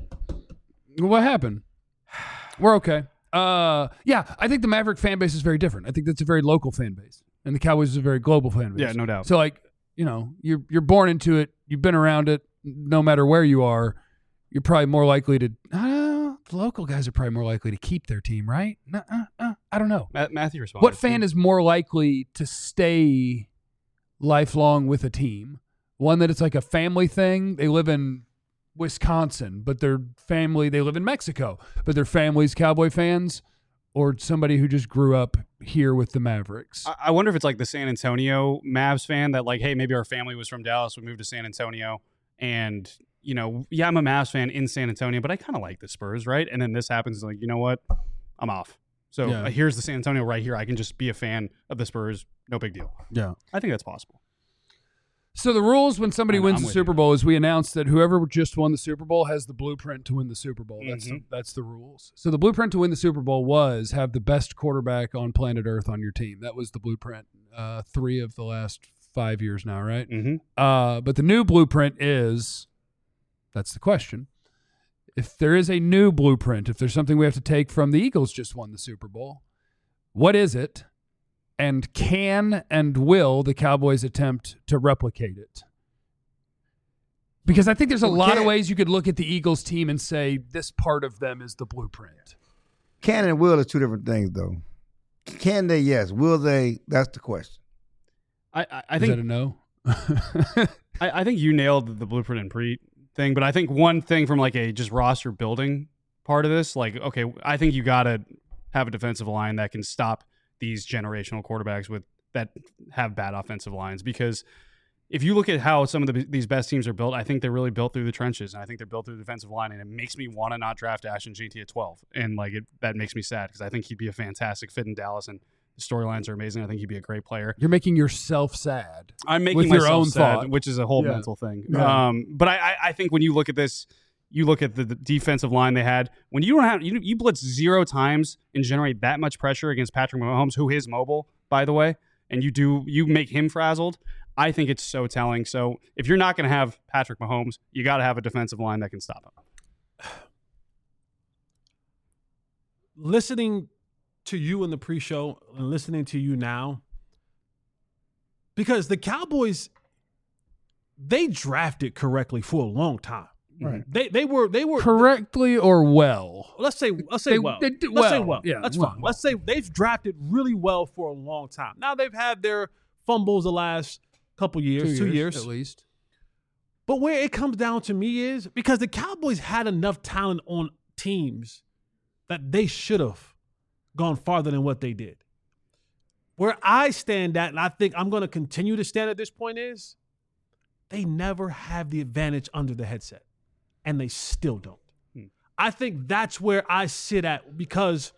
What happened? We're okay. Yeah, I think the Maverick fan base is very different. I think that's a very local fan base, and the Cowboys is a very global fan base. Yeah, no doubt. So, like, you know, you're born into it. You've been around it. No matter where you are, you're probably more likely to. The local guys are probably more likely to keep their team, right? I don't know. Matthew responded. What fan is more likely to stay lifelong with a team? One that it's like a family thing. They live in Wisconsin, but their family, they live in Mexico, but their family's Cowboy fans, or somebody who just grew up here with the Mavericks. I wonder if it's like the San Antonio Mavs fan that, like, hey, maybe our family was from Dallas, we moved to San Antonio, and, you know, yeah, I'm a Mavs fan in San Antonio, but I kind of like the Spurs, right? And then this happens, like, you know what? I'm off. So Yeah. Here's the San Antonio right here. I can just be a fan of the Spurs. No big deal. Yeah. I think that's possible. So the rules when somebody I'm wins the with Super you. Bowl is we announce that whoever just won the Super Bowl has the blueprint to win the Super Bowl. That's the rules. So the blueprint to win the Super Bowl was have the best quarterback on planet Earth on your team. That was the blueprint. 3 of the last 5 years now, right? Mm-hmm. But the new blueprint is, that's the question. If there is a new blueprint, if there's something we have to take from the Eagles just won the Super Bowl, what is it? And can and will the Cowboys attempt to replicate it? Because I think there's a lot of ways you could look at the Eagles team and say this part of them is the blueprint. Can and will is two different things, though. Can they? Yes. Will they? That's the question. I Is think that a no? I think you nailed the blueprint and pre thing, but I think one thing from like a just roster building part of this, like, okay, I think you got to have a defensive line that can stop these generational quarterbacks that have bad offensive lines. Because if you look at how some of these best teams are built, I think they're really built through the trenches, and I think they're built through the defensive line, and it makes me want to not draft Ashton Jeanty at 12. And like that makes me sad because I think he'd be a fantastic fit in Dallas, and the storylines are amazing. I think he'd be a great player. You're making yourself sad. I'm making with myself your own sad, thought. which is a whole Yeah. mental thing. Yeah. But I think when you look at this, you look at the defensive line they had. When you don't have you blitz 0 times and generate that much pressure against Patrick Mahomes, who is mobile, by the way, and you make him frazzled. I think it's so telling. So if you're not going to have Patrick Mahomes, you got to have a defensive line that can stop him. Listening to you in the pre-show and listening to you now, because the Cowboys, they drafted correctly for a long time. Right. They were Correctly or well? Let's say well. They did Let's say well. well. Yeah, That's well. fine. Let's say they've drafted really well for a long time. Now they've had their fumbles the last couple years, 2 years at least. But where it comes down to me is because the Cowboys had enough talent on teams that they should have gone farther than what they did. Where I stand at, and I think I'm going to continue to stand at this point, is they never have the advantage under the headset, and they still don't. I think that's where I sit at, because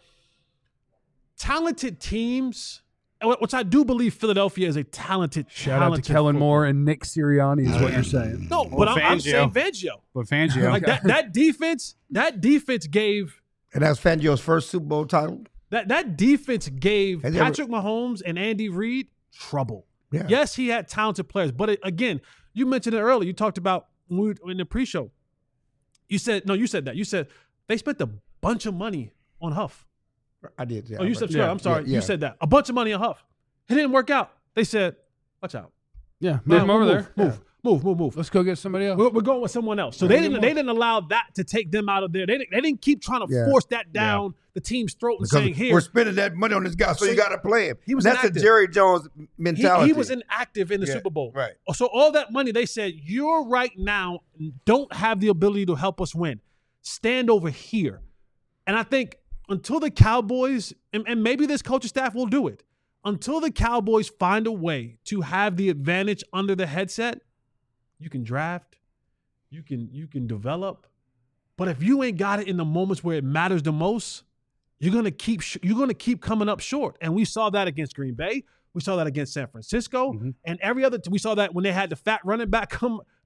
talented teams, which I do believe Philadelphia is a talented Shout out to Kellen Moore and Nick Sirianni is what you're saying. No, but I'm Fangio. saying Fangio. But Fangio, Like that defense gave And that's Fangio's first Super Bowl title. that defense gave Has he ever- Patrick Mahomes and Andy Reid trouble. Yeah. Yes, he had talented players, but again, you mentioned it earlier. You talked about in the pre-show. You said that. You said they spent a bunch of money on Huff. I did. Yeah, Oh, you said sorry. I'm sorry. Yeah. You said that. A bunch of money on Huff. It didn't work out. They said, watch out. Yeah, move him over there. Move. Let's go get somebody else. We're going with someone else. So they didn't allow that to take them out of there. They didn't keep trying to Yeah. force that down the team's throat and Because saying, here. we're spending that money on this guy, so you got to play him. He was That's a inactive. Jerry Jones mentality. He was inactive in the Yeah, Super Bowl. right. So all that money, they said, you're right now don't have the ability to help us win. Stand over here. And I think until the Cowboys, and maybe this coaching staff will do it, until the Cowboys find a way to have the advantage under the headset, you can draft, you can develop. But if you ain't got it in the moments where it matters the most, you're gonna keep coming up short. And we saw that against Green Bay. We saw that against San Francisco, and every other. We saw that when they had the fat running back come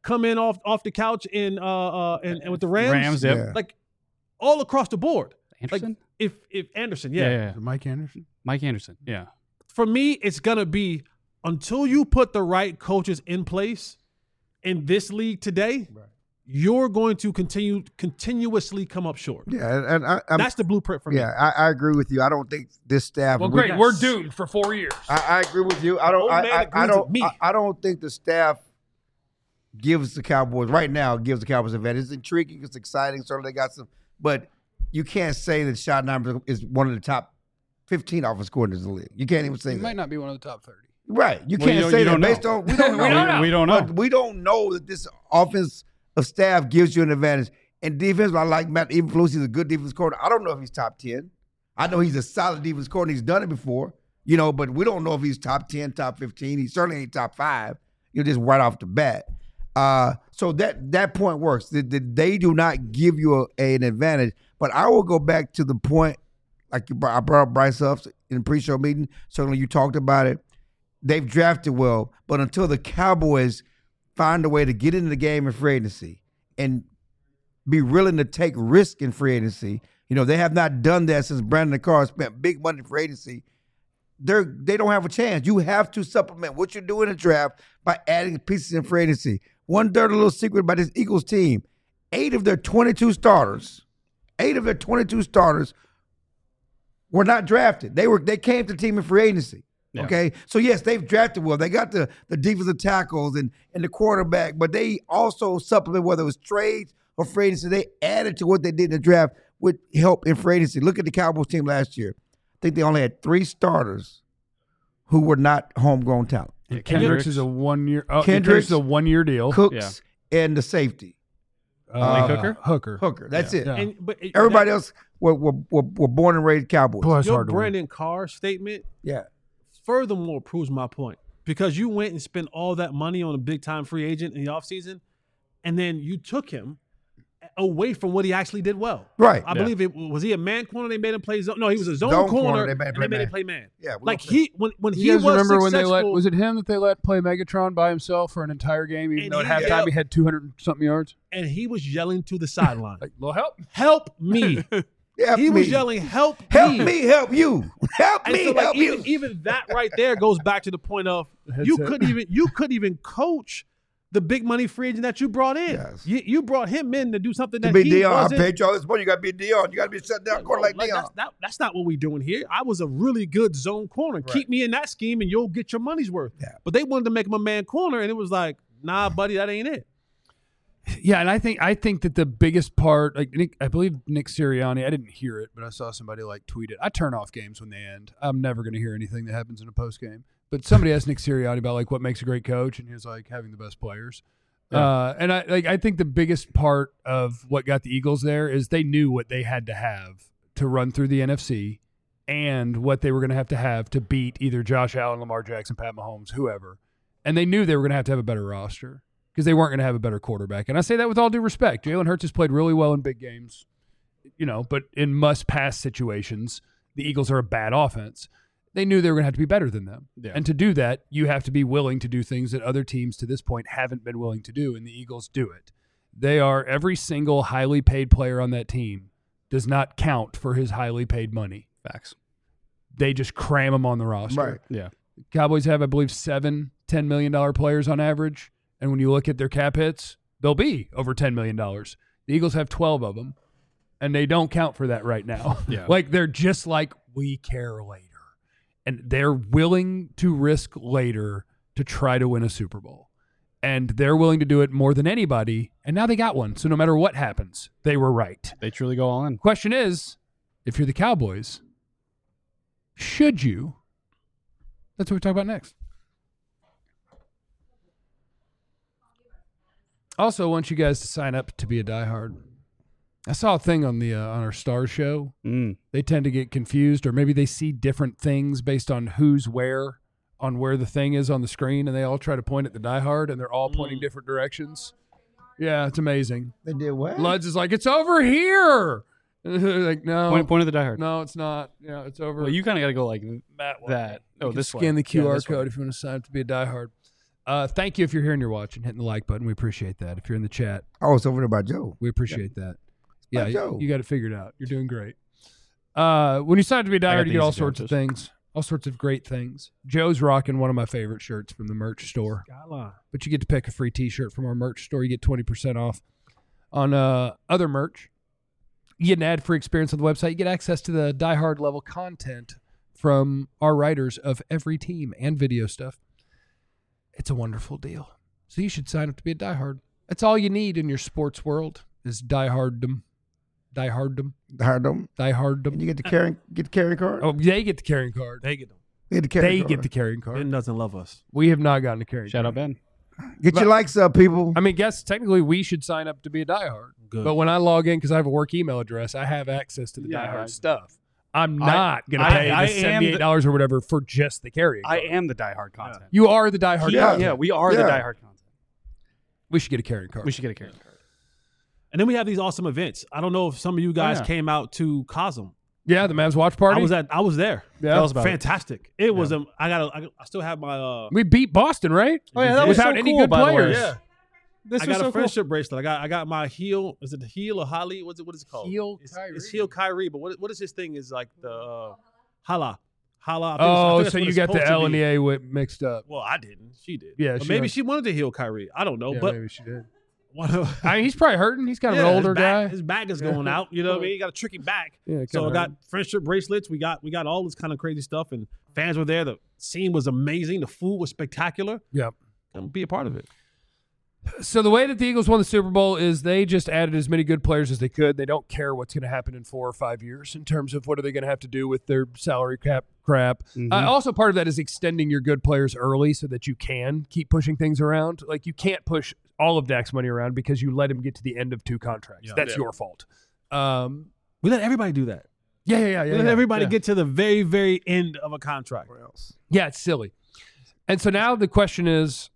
come in off the couch and with the Rams. Rams, yep. Yeah. Like all across the board. Anderson? Like if Anderson, Yeah. Mike Anderson. Mike Anderson. Yeah. For me, it's gonna be until you put the right coaches in place in this league today, you're going to continuously come up short. Yeah, and That's the blueprint for me. yeah, I agree with you. I don't think this staff. Well, we- great. We're doomed for 4 years. I agree with you. I don't. Old man I agrees don't. with me. I don't think the staff gives the Cowboys right now. Gives the Cowboys an advantage. It's intriguing. It's exciting. Certainly, they got some, but you can't say that Schottenheimer is one of the top 15 offensive coordinators in the league. You can't even say He that. might not be one of the top 30. Right. You Well, can't you say don't that based know. on we don't know. We don't know. But we don't know that this offense of staff gives you an advantage. And defense, I like Matt Eberflus. He's a good defense coordinator. I don't know if he's top 10. I know he's a solid defense coordinator. He's done it before, but we don't know if he's top 10, top 15. He certainly ain't top 5. Just right off the bat. So that point works. They do not give you an advantage. But I will go back to the point, like I brought up Bryce Huff in the pre-show meeting. Certainly you talked about it. They've drafted well, but until the Cowboys find a way to get into the game in free agency and be willing to take risk in free agency, they have not done that since Brandon Carr spent big money in free agency. They don't have a chance. You have to supplement what you're doing in the draft by adding pieces in free agency. One dirty little secret about this Eagles team: 8 of their 22 starters were not drafted. They came to the team in free agency. Yeah. Okay, so yes, they've drafted well. They got the defensive tackles and the quarterback, but they also supplement whether it was trades or free agency. They added to what they did in the draft with help in free agency. Look at the Cowboys team last year. I think they only had 3 starters who were not homegrown talent. Yeah, Kendricks is a 1 year. Oh, Kendricks Kendricks is a 1 year deal. Cooks and the safety Hooker. Hooker. That's it. Yeah. But Everybody else were born and raised Cowboys. Boy, it's your hard to win. Brandon Carr statement Yeah. furthermore proves my point, because you went and spent all that money on a big-time free agent in the offseason, and then you took him away from what he actually did well. Right. I believe it was he a man corner. They made him play zone. No, he was a zone corner. They made and they made him play man. Yeah. Like he when You he guys was remember when successful, they let, was it him that they let play Megatron by himself for an entire game, even And though at he- halftime he had 200-something yards? and he was yelling to the sideline, Like, little help. "Help me!" Help He me. was yelling, "Help me, help you. Help And me, so, like, help you. even that right there goes back to the point of you couldn't even coach the big money free agent that you brought in. Yes. You brought him in to do something To that be he Dion, I wasn't. paid you all this money. You got to be Dion. You got to be shut down corner like Dion. That's not what we're doing here. I was a really good zone corner. Keep me in that scheme and you'll get your money's worth. Yeah. But they wanted to make him a man corner, and it was like, nah, buddy, that ain't it. Yeah, and I think that the biggest part, like I believe Nick Sirianni, I didn't hear it, but I saw somebody tweet it. I turn off games when they end. I'm never going to hear anything that happens in a post game. But somebody asked Nick Sirianni about what makes a great coach, and he was like having the best players. Yeah. And I think the biggest part of what got the Eagles there is they knew what they had to have to run through the NFC, and what they were going to have to beat either Josh Allen, Lamar Jackson, Pat Mahomes, whoever. And they knew they were going to have a better roster, because they weren't going to have a better quarterback. And I say that with all due respect. Jalen Hurts has played really well in big games, but in must-pass situations, the Eagles are a bad offense. They knew they were going to have to be better than them. Yeah. And to do that, you have to be willing to do things that other teams to this point haven't been willing to do, and the Eagles do it. Every single highly paid player on that team does not count for his highly paid money. Facts. They just cram them on the roster. Right. Yeah. Cowboys have, I believe, 7 $10 million players on average. And when you look at their cap hits, they'll be over $10 million. The Eagles have 12 of them, and they don't count for that right now. Yeah. They're just like, we care later. And they're willing to risk later to try to win a Super Bowl. And they're willing to do it more than anybody. And now they got one. So no matter what happens, they were right. They truly go all in. Question is, if you're the Cowboys, should you? That's what we talk about next. Also, I want you guys to sign up to be a diehard. I saw a thing on our Stars show. They tend to get confused, or maybe they see different things based on who's where on where the thing is on the screen, and they all try to point at the diehard, and they're all pointing different directions. Yeah, it's amazing. They did what? Luds is like, it's over here. Like, no. Point of the diehard. No, it's not. Yeah, it's over. Well, you kind of got to go like that way. that. Oh, You can this scan way. the QR Yeah, this way. code if you want to sign up to be a diehard. Thank you if you're here and you're watching, hitting the like button. We appreciate that. If you're in the chat, Oh, it's over there by Joe. we appreciate that. by Yeah, Joe. you got it figured out. You're doing great. When you sign up to be a got diehard, the you get all easy sorts of answers. things, all sorts of great things. Joe's rocking one of my favorite shirts from the merch store. Skyline. But you get to pick a free T-shirt from our merch store. You get 20% off on other merch. You get an ad-free experience on the website. You get access to the diehard level content from our writers of every team and video stuff. It's a wonderful deal. So you should sign up to be a diehard. That's all you need in your sports world is dieharddom. Dieharddom. And Dieharddom. you get the carrying card. Oh, they get the carrying card. They get them. You get the carrying They card. get the carrying card. Ben doesn't love us. We have not gotten a carrying Shout card. out Ben. Get your likes up, people. I mean, guess technically we should sign up to be a diehard. Good. But when I log in, because I have a work email address, I have access to the Yeah, diehard right. stuff. I'm not going to pay I the am the- $78 or whatever for just the carrying I card. am the diehard content. You are the diehard. Yeah. content. Yeah, we are the Yeah. diehard content. We should get a carrying card. We should get a carrying card. And then we have these awesome events. I don't know if some of you guys yeah. came out to Cosm. Yeah, the Mavs watch party. I was there. Yeah. Tell us about it. Fantastic. It was I still have my We beat Boston, right? Oh yeah, that was Without so any cool, good by the way. players. Yeah. This I was got so a cool. friendship bracelet. I got my heel. Is it the heel or Holly? What is it called? Heel It's Kyrie. heel Kyrie. But what is his thing? Is like the Hala. Hala. I think Oh, that's so what you it's got the supposed to L and be. the A mixed up. Well, I didn't. She did. Yeah, Or she maybe was. she wanted to heel Kyrie. I don't know. Yeah, but maybe she did. one of, I mean, he's probably hurting. He's kind of yeah, an older his back, guy. His back is going out. You know what I mean? He got a tricky back. Yeah, So kinda I got friendship bracelets. We got all this kind of crazy stuff, and fans were there. The scene was amazing. The food was spectacular. Yep. Come be a part of it. So the way that the Eagles won the Super Bowl is they just added as many good players as they could. They don't care what's going to happen in 4 or 5 years in terms of what are they going to have to do with their salary cap crap. Also, part of that is extending your good players early so that you can keep pushing things around. Like you can't push all of Dak's money around because you let him get to the end of 2 contracts. Yeah. That's your fault. We let everybody do that. Yeah. We let everybody get to the very, very end of a contract. Yeah, it's silly. And so now the question is,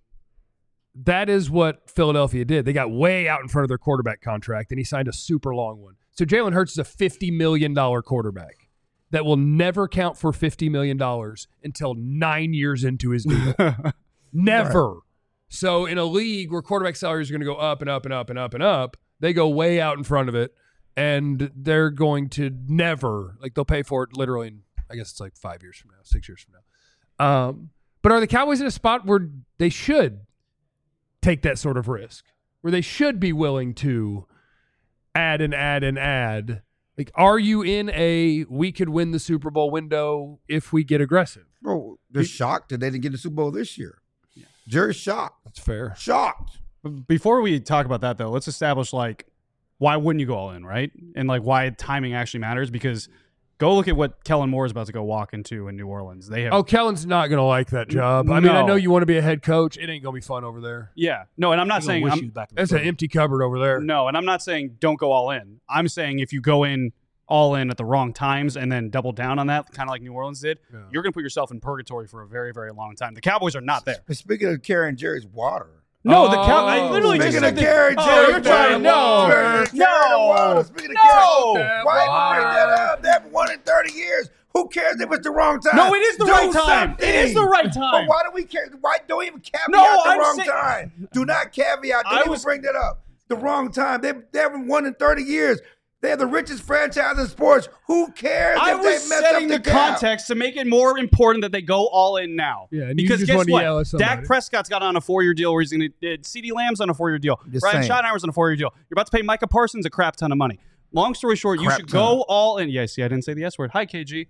that is what Philadelphia did. They got way out in front of their quarterback contract, and he signed a super long one. So Jalen Hurts is a $50 million quarterback that will never count for $50 million until 9 years into his deal. Never. Right. So in a league where quarterback salaries are going to go up and up and up and up and up, they go way out in front of it, and they're going to never, like they'll pay for it literally in, I guess it's like 5 years from now, 6 years from now. But are the Cowboys in a spot where they should take that sort of risk, where they should be willing to add and add and add? Like, are you in a we could win the Super Bowl window if we get aggressive? Bro, they're shocked that they didn't get the Super Bowl this year. Yeah. Jerry's shocked. That's fair. Shocked. Before we talk about that, though, let's establish, like, why wouldn't you go all in, right? And, like, why timing actually matters, because go look at what Kellen Moore is about to go walk into in New Orleans. They have Kellen's not going to like that job. I mean, I know you want to be a head coach. It ain't going to be fun over there. Yeah. No, and I'm not saying that's an empty cupboard over there. No, and I'm not saying don't go all in. I'm saying if you go in all in at the wrong times and then double down on that, kind of like New Orleans did, you're going to put yourself in purgatory for a very, very long time. The Cowboys are not there. Speaking of carrying Jerry's water. No, the Cowboys. I literally just speaking said of carrying Jerry's you're trying water. no. Speaking of carrying, why you bring that up? They haven't won in 30 years. Who cares if it's the wrong time? No, it is the right time. Something. It is the right time. But why do we care? Why don't even caveat No, the I'm wrong saying- time? Do not caveat. Don't even bring that up. The wrong time. They haven't won in 30 years. They're the richest franchise in sports. Who cares I if they was messed setting up the cap? context to make it more important that they go all in now. Yeah, and you because just guess wanted to what? yell at somebody. Dak Prescott's got on a 4-year deal where he's going to CeeDee Lamb's on a 4-year deal. Just Brian saying. Schottenheimer's on a 4-year deal. You're about to pay Micah Parsons a crap ton of money. Long story short, you Crap should ton. go all in. Yeah, see, I didn't say the S word. Hi, KG.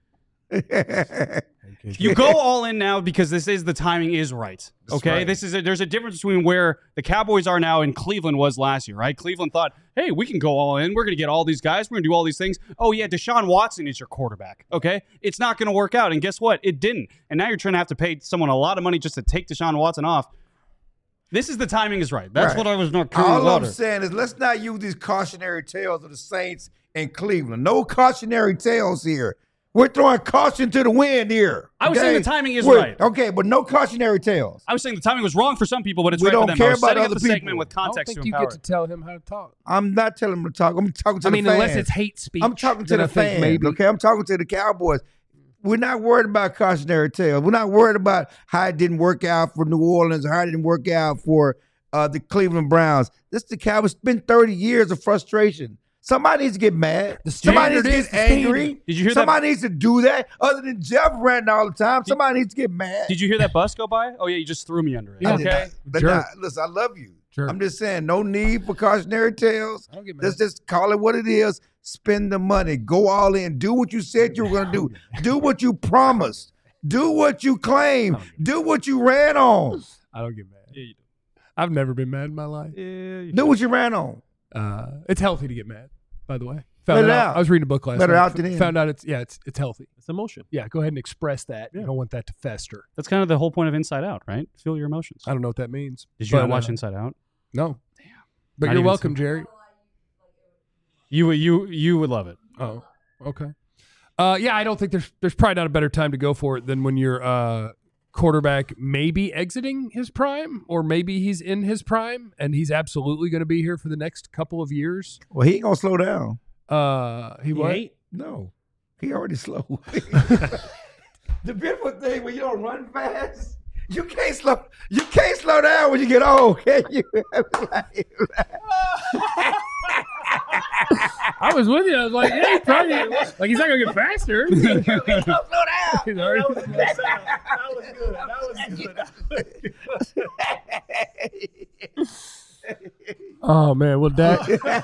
You go all in now because the timing is right. Okay, right. There's a difference between where the Cowboys are now and Cleveland was last year, right? Cleveland thought, hey, we can go all in. We're going to get all these guys. We're going to do all these things. Oh yeah, Deshaun Watson is your quarterback. Okay, it's not going to work out. And guess what? It didn't. And now you're trying to have to pay someone a lot of money just to take Deshaun Watson off. This is the timing is right. That's Right. what I was not carrying All water. I'm saying is let's not use these cautionary tales of the Saints and Cleveland. No cautionary tales here. We're throwing caution to the wind here. I was okay? saying the timing is We're- right. Okay, but no cautionary tales. I was saying the timing was wrong for some people, but it's We right for don't them. care I was about setting up other the segment people. with I don't context think to you empower get to tell him how to talk. I'm not telling them to talk. I'm talking to I the mean, fans. unless it's hate speech. I'm talking to then the I think fans. maybe. Okay, I'm talking to the Cowboys. We're not worried about cautionary tales. We're not worried about how it didn't work out for New Orleans or how it didn't work out for the Cleveland Browns. This is the Cowboys. It's been 30 years of frustration. Somebody needs to get mad. Somebody needs to get angry. Did you hear Somebody needs to do that. Other than Jeff ranting all the time, somebody needs to get mad. Did you hear that bus go by? Oh, yeah, you just threw me under it. Yeah. Okay. Listen, I love you. Sure. I'm just saying, no need for cautionary tales. I don't get mad. Let's just call it what it is. Spend the money. Go all in. Do what you said you were going to do. Do what you promised. Do what you claimed. Do what you ran on. I don't get mad. Yeah, you do. I've never been mad in my life. Yeah, you Do what you ran on. It's healthy to get mad, by the way. Let Found it out. out. I was reading a book last Let it night. out than in. Found out it's healthy. It's emotion. Yeah, go ahead and express that. Yeah. You don't want that to fester. That's kind of the whole point of Inside Out, right? Feel your emotions. I don't know what that means. Did you not But, watch Inside Out? No. Damn. But Not you're even welcome, some- Jerry. You would love it. Oh, okay. Yeah, I don't think there's probably not a better time to go for it than when your quarterback maybe exiting his prime, or maybe he's in his prime and he's absolutely going to be here for the next couple of years. Well, he ain't going to slow down. He what? ain't? No. He already slow. The beautiful thing when you don't run fast, you can't slow down when you get old, can you? I was with you. I was like, yeah, he's probably like he's not going to get faster. Don't slow down. He's already- Oh man, will Dak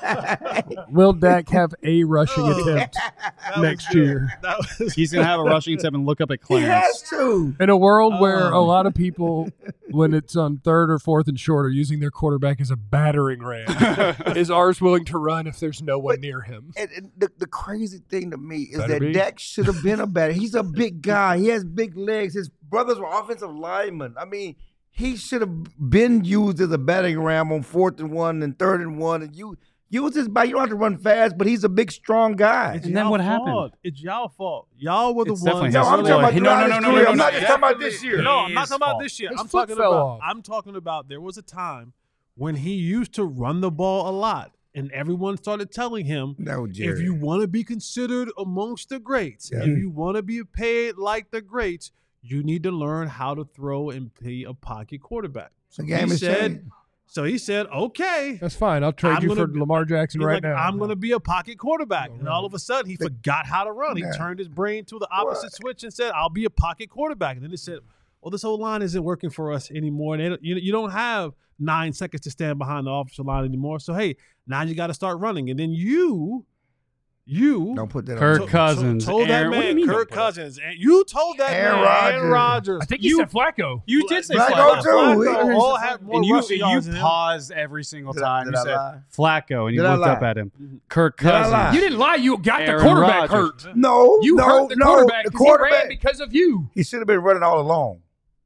have a rushing attempt next year? He's going to have a rushing attempt and look up at He has Clarence. to. In a world where a lot of people, when it's on 3rd or 4th and short, are using their quarterback as a battering ram, is ours willing to run if there's no one near him? And the crazy thing to me is Better that be. Dak should have been a batter. He's a big guy. He has big legs. His brothers were offensive linemen. I mean, he should have been used as a batting ram on 4th and 1 and 3rd and 1. And you use his body. You don't have to run fast, but he's a big, strong guy. And then what happened? It's y'all fault. Y'all were the It's definitely ones. No, his I'm fault. talking about No, throughout no, his no, no, career. no, I'm no, not just talking about this year. No, I'm not His talking about fault. this year. His I'm foot talking fell about. off. I'm talking about. There was a time when he used to run the ball a lot, and everyone started telling him, No, Jerry. if you want to be considered amongst the greats, Yeah. if you want to be paid like the greats, you need to learn how to throw and be a pocket quarterback. So The game he has said. changed. So he said, "Okay." That's fine. I'll trade I'm you gonna for be- Lamar Jackson He's right like, now. I'm going to be a pocket quarterback. And all of a sudden, he forgot how to run. He Yeah. turned his brain to the opposite switch and said, I'll be a pocket quarterback. And then he said, well, this whole line isn't working for us anymore. And you don't have 9 seconds to stand behind the offensive line anymore. So, hey, now you got to start running. And then you Don't put that Kirk on. Cousins. told that Aaron- what do you man, mean Kirk don't put it? Cousins. And you told that Aaron man, Aaron Rodgers. I think you said Flacco. You did say Flacco Flacco. too. Flacco all had more And you rushing yards than him. paused every single Did I- time. did You I said lie? Flacco, and you Did I looked up lie? at him. Kirk Did I Cousins. lie? You didn't lie. You got Aaron the quarterback Rodgers. hurt. No, You no, hurt the no. quarterback The 'cause he ran quarterback. because of you. He should have been running all along.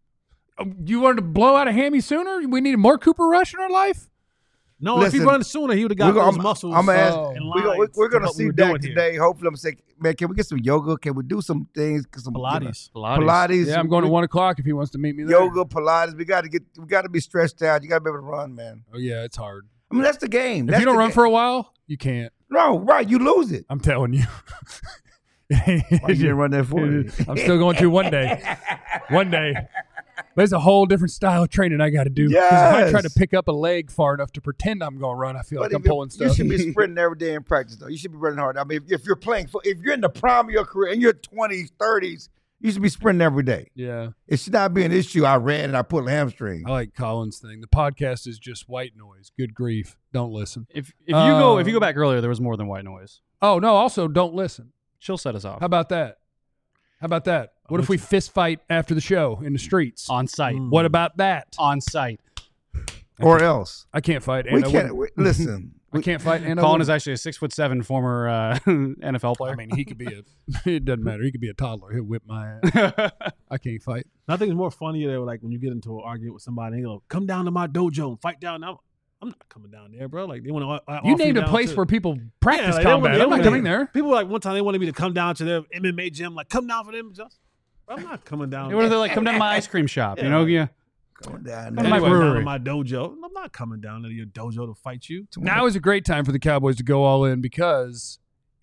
You wanted to blow out a hammy sooner? We needed more Cooper Rush in our life? No, if he Listen, run sooner, he would have got those muscles. I'm gonna ask. Oh. in We're line going to to what see we were Dak doing here. today. Hopefully, I'm saying, man, can we get some yoga? Can we do some things? Some Pilates. Pilates. Yeah, I'm going to 1 o'clock if he wants to meet me there. Yoga, Pilates. We got to be stretched out. You got to be able to run, man. Oh, yeah, it's hard. I mean, that's the game. If That's you don't the run game. for a while, you can't. No, right. You lose it. I'm telling you. Why you didn't run that for me? I'm still going to one day. One day. There's a whole different style of training I got to do. Because if I try to Yes. pick up a leg far enough to pretend I'm going to run, I feel like I'm if you- pulling stuff. You should be sprinting every day in practice, though. You should be running hard. I mean, if you're playing, if you're in the prime of your career, in your 20s, 30s, you should be sprinting every day. Yeah. It should not be an issue. I ran and I pulled a hamstring. I like Colin's thing. The podcast is just white noise. Good grief. Don't listen. If you go back earlier, there was more than white noise. Oh, no. Also, don't listen. She'll set us off How about that? How about that? What if we fist fight after the show in the streets? on site. What about that? On site. Or else. I can't fight. We And I can't. wouldn't. Listen. I can't fight. And I Colin is wouldn't. actually a 6'7" former NFL player. I mean, he could be it doesn't matter. He could be a toddler. He'll whip my ass. I can't fight. Nothing is more funny than like when you get into an argument with somebody, and they go, "Come down to my dojo and fight down." I'm not coming down there, bro. Like they want to. You named a place where people practice like, they combat. wanna- I'm not they coming wanna- there. People like one time they wanted me to come down to their MMA gym. Like, come down for them. Just, I'm not coming down. What are they like? Come down to my ice cream shop. You know, yeah. Going down Come there. to my Anyway, down brewery. to my dojo. I'm not coming down to your dojo to fight you. Now is a great time for the Cowboys to go all in because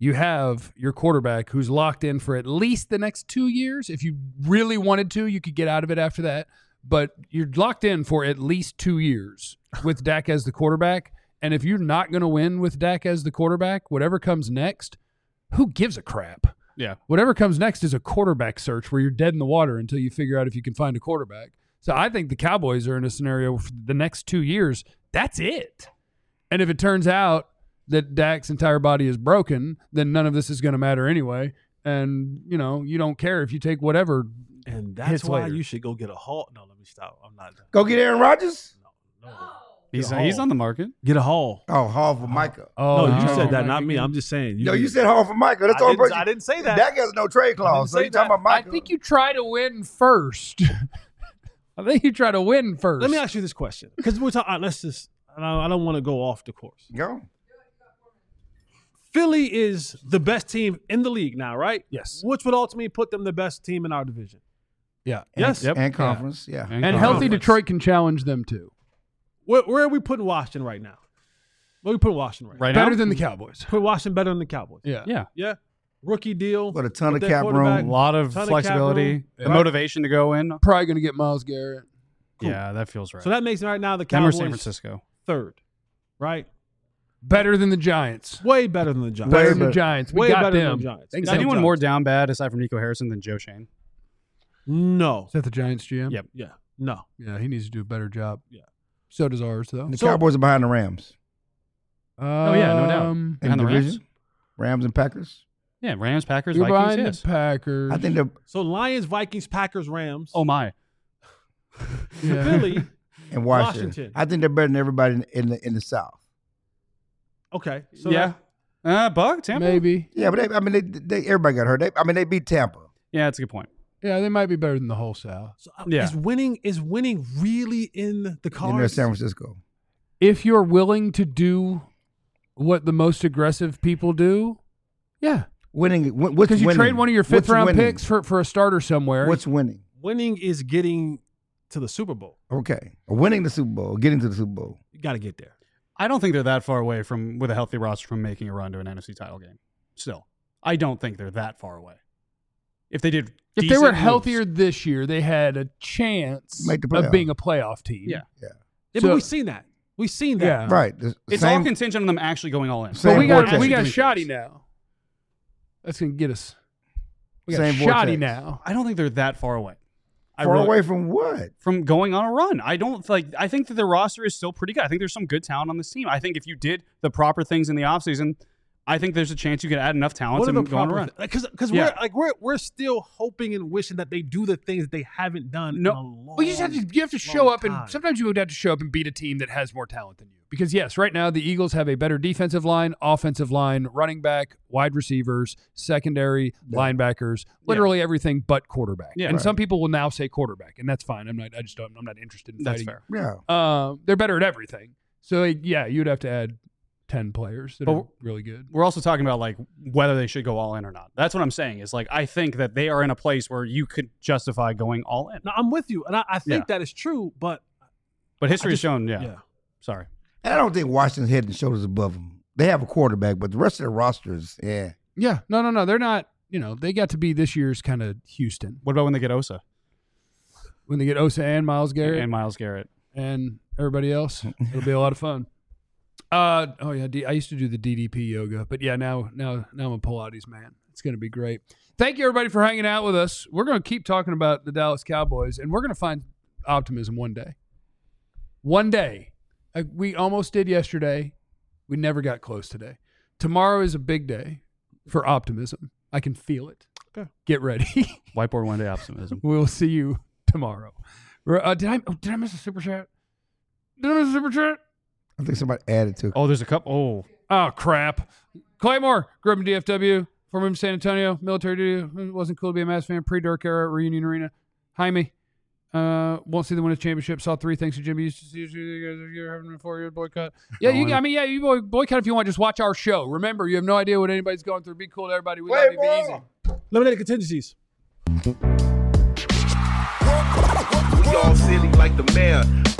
you have your quarterback who's locked in for at least the next 2 years. If you really wanted to, you could get out of it after that. But you're locked in for at least 2 years with Dak as the quarterback. And if you're not going to win with Dak as the quarterback, whatever comes next, who gives a crap? Yeah. Whatever comes next is a quarterback search where you're dead in the water until you figure out if you can find a quarterback. So I think the Cowboys are in a scenario for the next 2 years. That's it. And if it turns out that Dak's entire body is broken, then none of this is going to matter anyway. And, you don't care if you take whatever. And that's hits why later. you should go get a Hall. No, let me stop. I'm not. Go get Aaron Rodgers? No. He's on the market. Get a Hall. Oh, Hall for Micah. No, you no. said that, not me. I'm just saying. No, you said Hall for Micah. That's the only person. I didn't say that. Dak has no trade clause, so say you talking that. about Micah. I think you try to win first. I think you try to win first. Let me ask you this question, because we're talking. Let's just. I don't want to go off the course. Go. Philly is the best team in the league now, right? Yes. Which would ultimately put them the best team in our division. Yeah. Yes. Yep. And conference, yeah. And healthy conference. Detroit can challenge them too. Where are we putting Washington right now? Where are we putting Washington Right Better now? than the Cowboys. Put Washington better than the Cowboys. Yeah. Yeah. Yeah. Rookie deal. With a ton with of their cap quarterback. A room. lot of Ton of cap flexibility. room. The Right. motivation to go in. Probably going to get Myles Garrett. Yeah, that feels right. So that makes right now the Them or Cowboys San Francisco. third, right? Better than the Giants. Way better than the Giants. Better Way than the better. Giants. We Way got better than them. the Giants. Thanks, Is Got anyone Giants. more down bad aside from Nico Harrison than Joe Shane? No. Is that the Giants GM? Yep. Yeah. No. Yeah, he needs to do a better job. Yeah. So does ours, though. The Cowboys are behind the Rams. Oh, yeah, no doubt. In Behind the Rams? division. Rams and Packers. Yeah, Rams, Packers, You're Vikings, behind yes. the Packers. I think they're So Lions, Vikings, Packers, Rams. Oh, my. Yeah. Philly. in Washington. Washington. I think they're better than everybody in the South. Okay. So Yeah. Bug, Tampa? Maybe. Yeah, but they everybody got hurt. They beat Tampa. Yeah, that's a good point. Yeah, they might be better than the whole South. Yeah. Is winning really in the In their cards? San Francisco. If you're willing to do what the most aggressive people do, yeah. Winning. What's Because you winning? trade one of your What's fifth-round winning? picks for a starter somewhere. What's winning? Winning is getting to the Super Bowl. Okay, winning the Super Bowl, getting to the Super Bowl. You got to get there. I don't think they're that far away from, with a healthy roster, from making a run to an NFC title game. Still, I don't think they're that far away. If they did, If they were decent healthier moves. this year, they had a chance Make the of playoff. being a playoff team. Yeah. Yeah, So- but we've seen that. We've seen that. Yeah. Right. it's all contingent on them actually going all in. But Same we got vortex. we got Doing Shoddy things. now. That's gonna get us. We got Same Shoddy vortex. now. I don't think they're that far away. Far away from what? From going on a run. I think that their roster is still pretty good. I think there's some good talent on this team. I think if you did the proper things in the offseason, I think there's a chance you could add enough talent What are to the go on a proper? run. Because Yeah. we're still hoping and wishing that they do the things that they haven't done. No. in a long, Well, you have to show long up, and time. sometimes you would have to show up and beat a team that has more talent than you. Because yes, right now the Eagles have a better defensive line, offensive line, running back, wide receivers, secondary, linebackers, literally everything but quarterback. Yeah. and Right. some people will now say quarterback, and that's fine. I'm not interested in That's fighting. fair. Yeah. They're better at everything. So yeah, you'd have to add 10 players that But are really good. We're also talking about like whether they should go all in or not. That's what I'm saying. Is like I think that they are in a place where you could justify going all in. No, I'm with you, and I think Yeah. that is true. But But history has just- shown, yeah. Sorry. And I don't think Washington's head and shoulders above them. They have a quarterback, but the rest of the rosters, yeah. Yeah, no, they're not. They got to be this year's kind of Houston What about when they get Osa when they get Osa and Myles Garrett and Myles Garrett? and everybody else. It'll be a lot of fun. I used to do the DDP yoga, but yeah, now I'm a Pilates man. It's going to be great. Thank you everybody for hanging out with us. We're going to keep talking about the Dallas Cowboys, and we're going to find optimism one day. One day, we almost did yesterday. We never got close today. Tomorrow is a big day for optimism. I can feel it. Okay. Get ready. Whiteboard one day optimism. We'll see you tomorrow. Did I miss a super chat? Did I miss a super chat? I think somebody added to it. Oh, there's a couple. Oh, crap. Claymore, grew up in DFW, former San Antonio, military duty. It wasn't cool to be a Mavs fan. Pre-Dark era, Reunion Arena. Jaime, won't see the winners championship. Saw 3 thanks to Jimmy. Used to see you guys. You're having a 4-year boycott. Yeah, you boycott if you want. Just watch our show. Remember, you have no idea what anybody's going through. Be cool to everybody. We love you. Be easy. eliminated contingencies. We all silly like the mayor.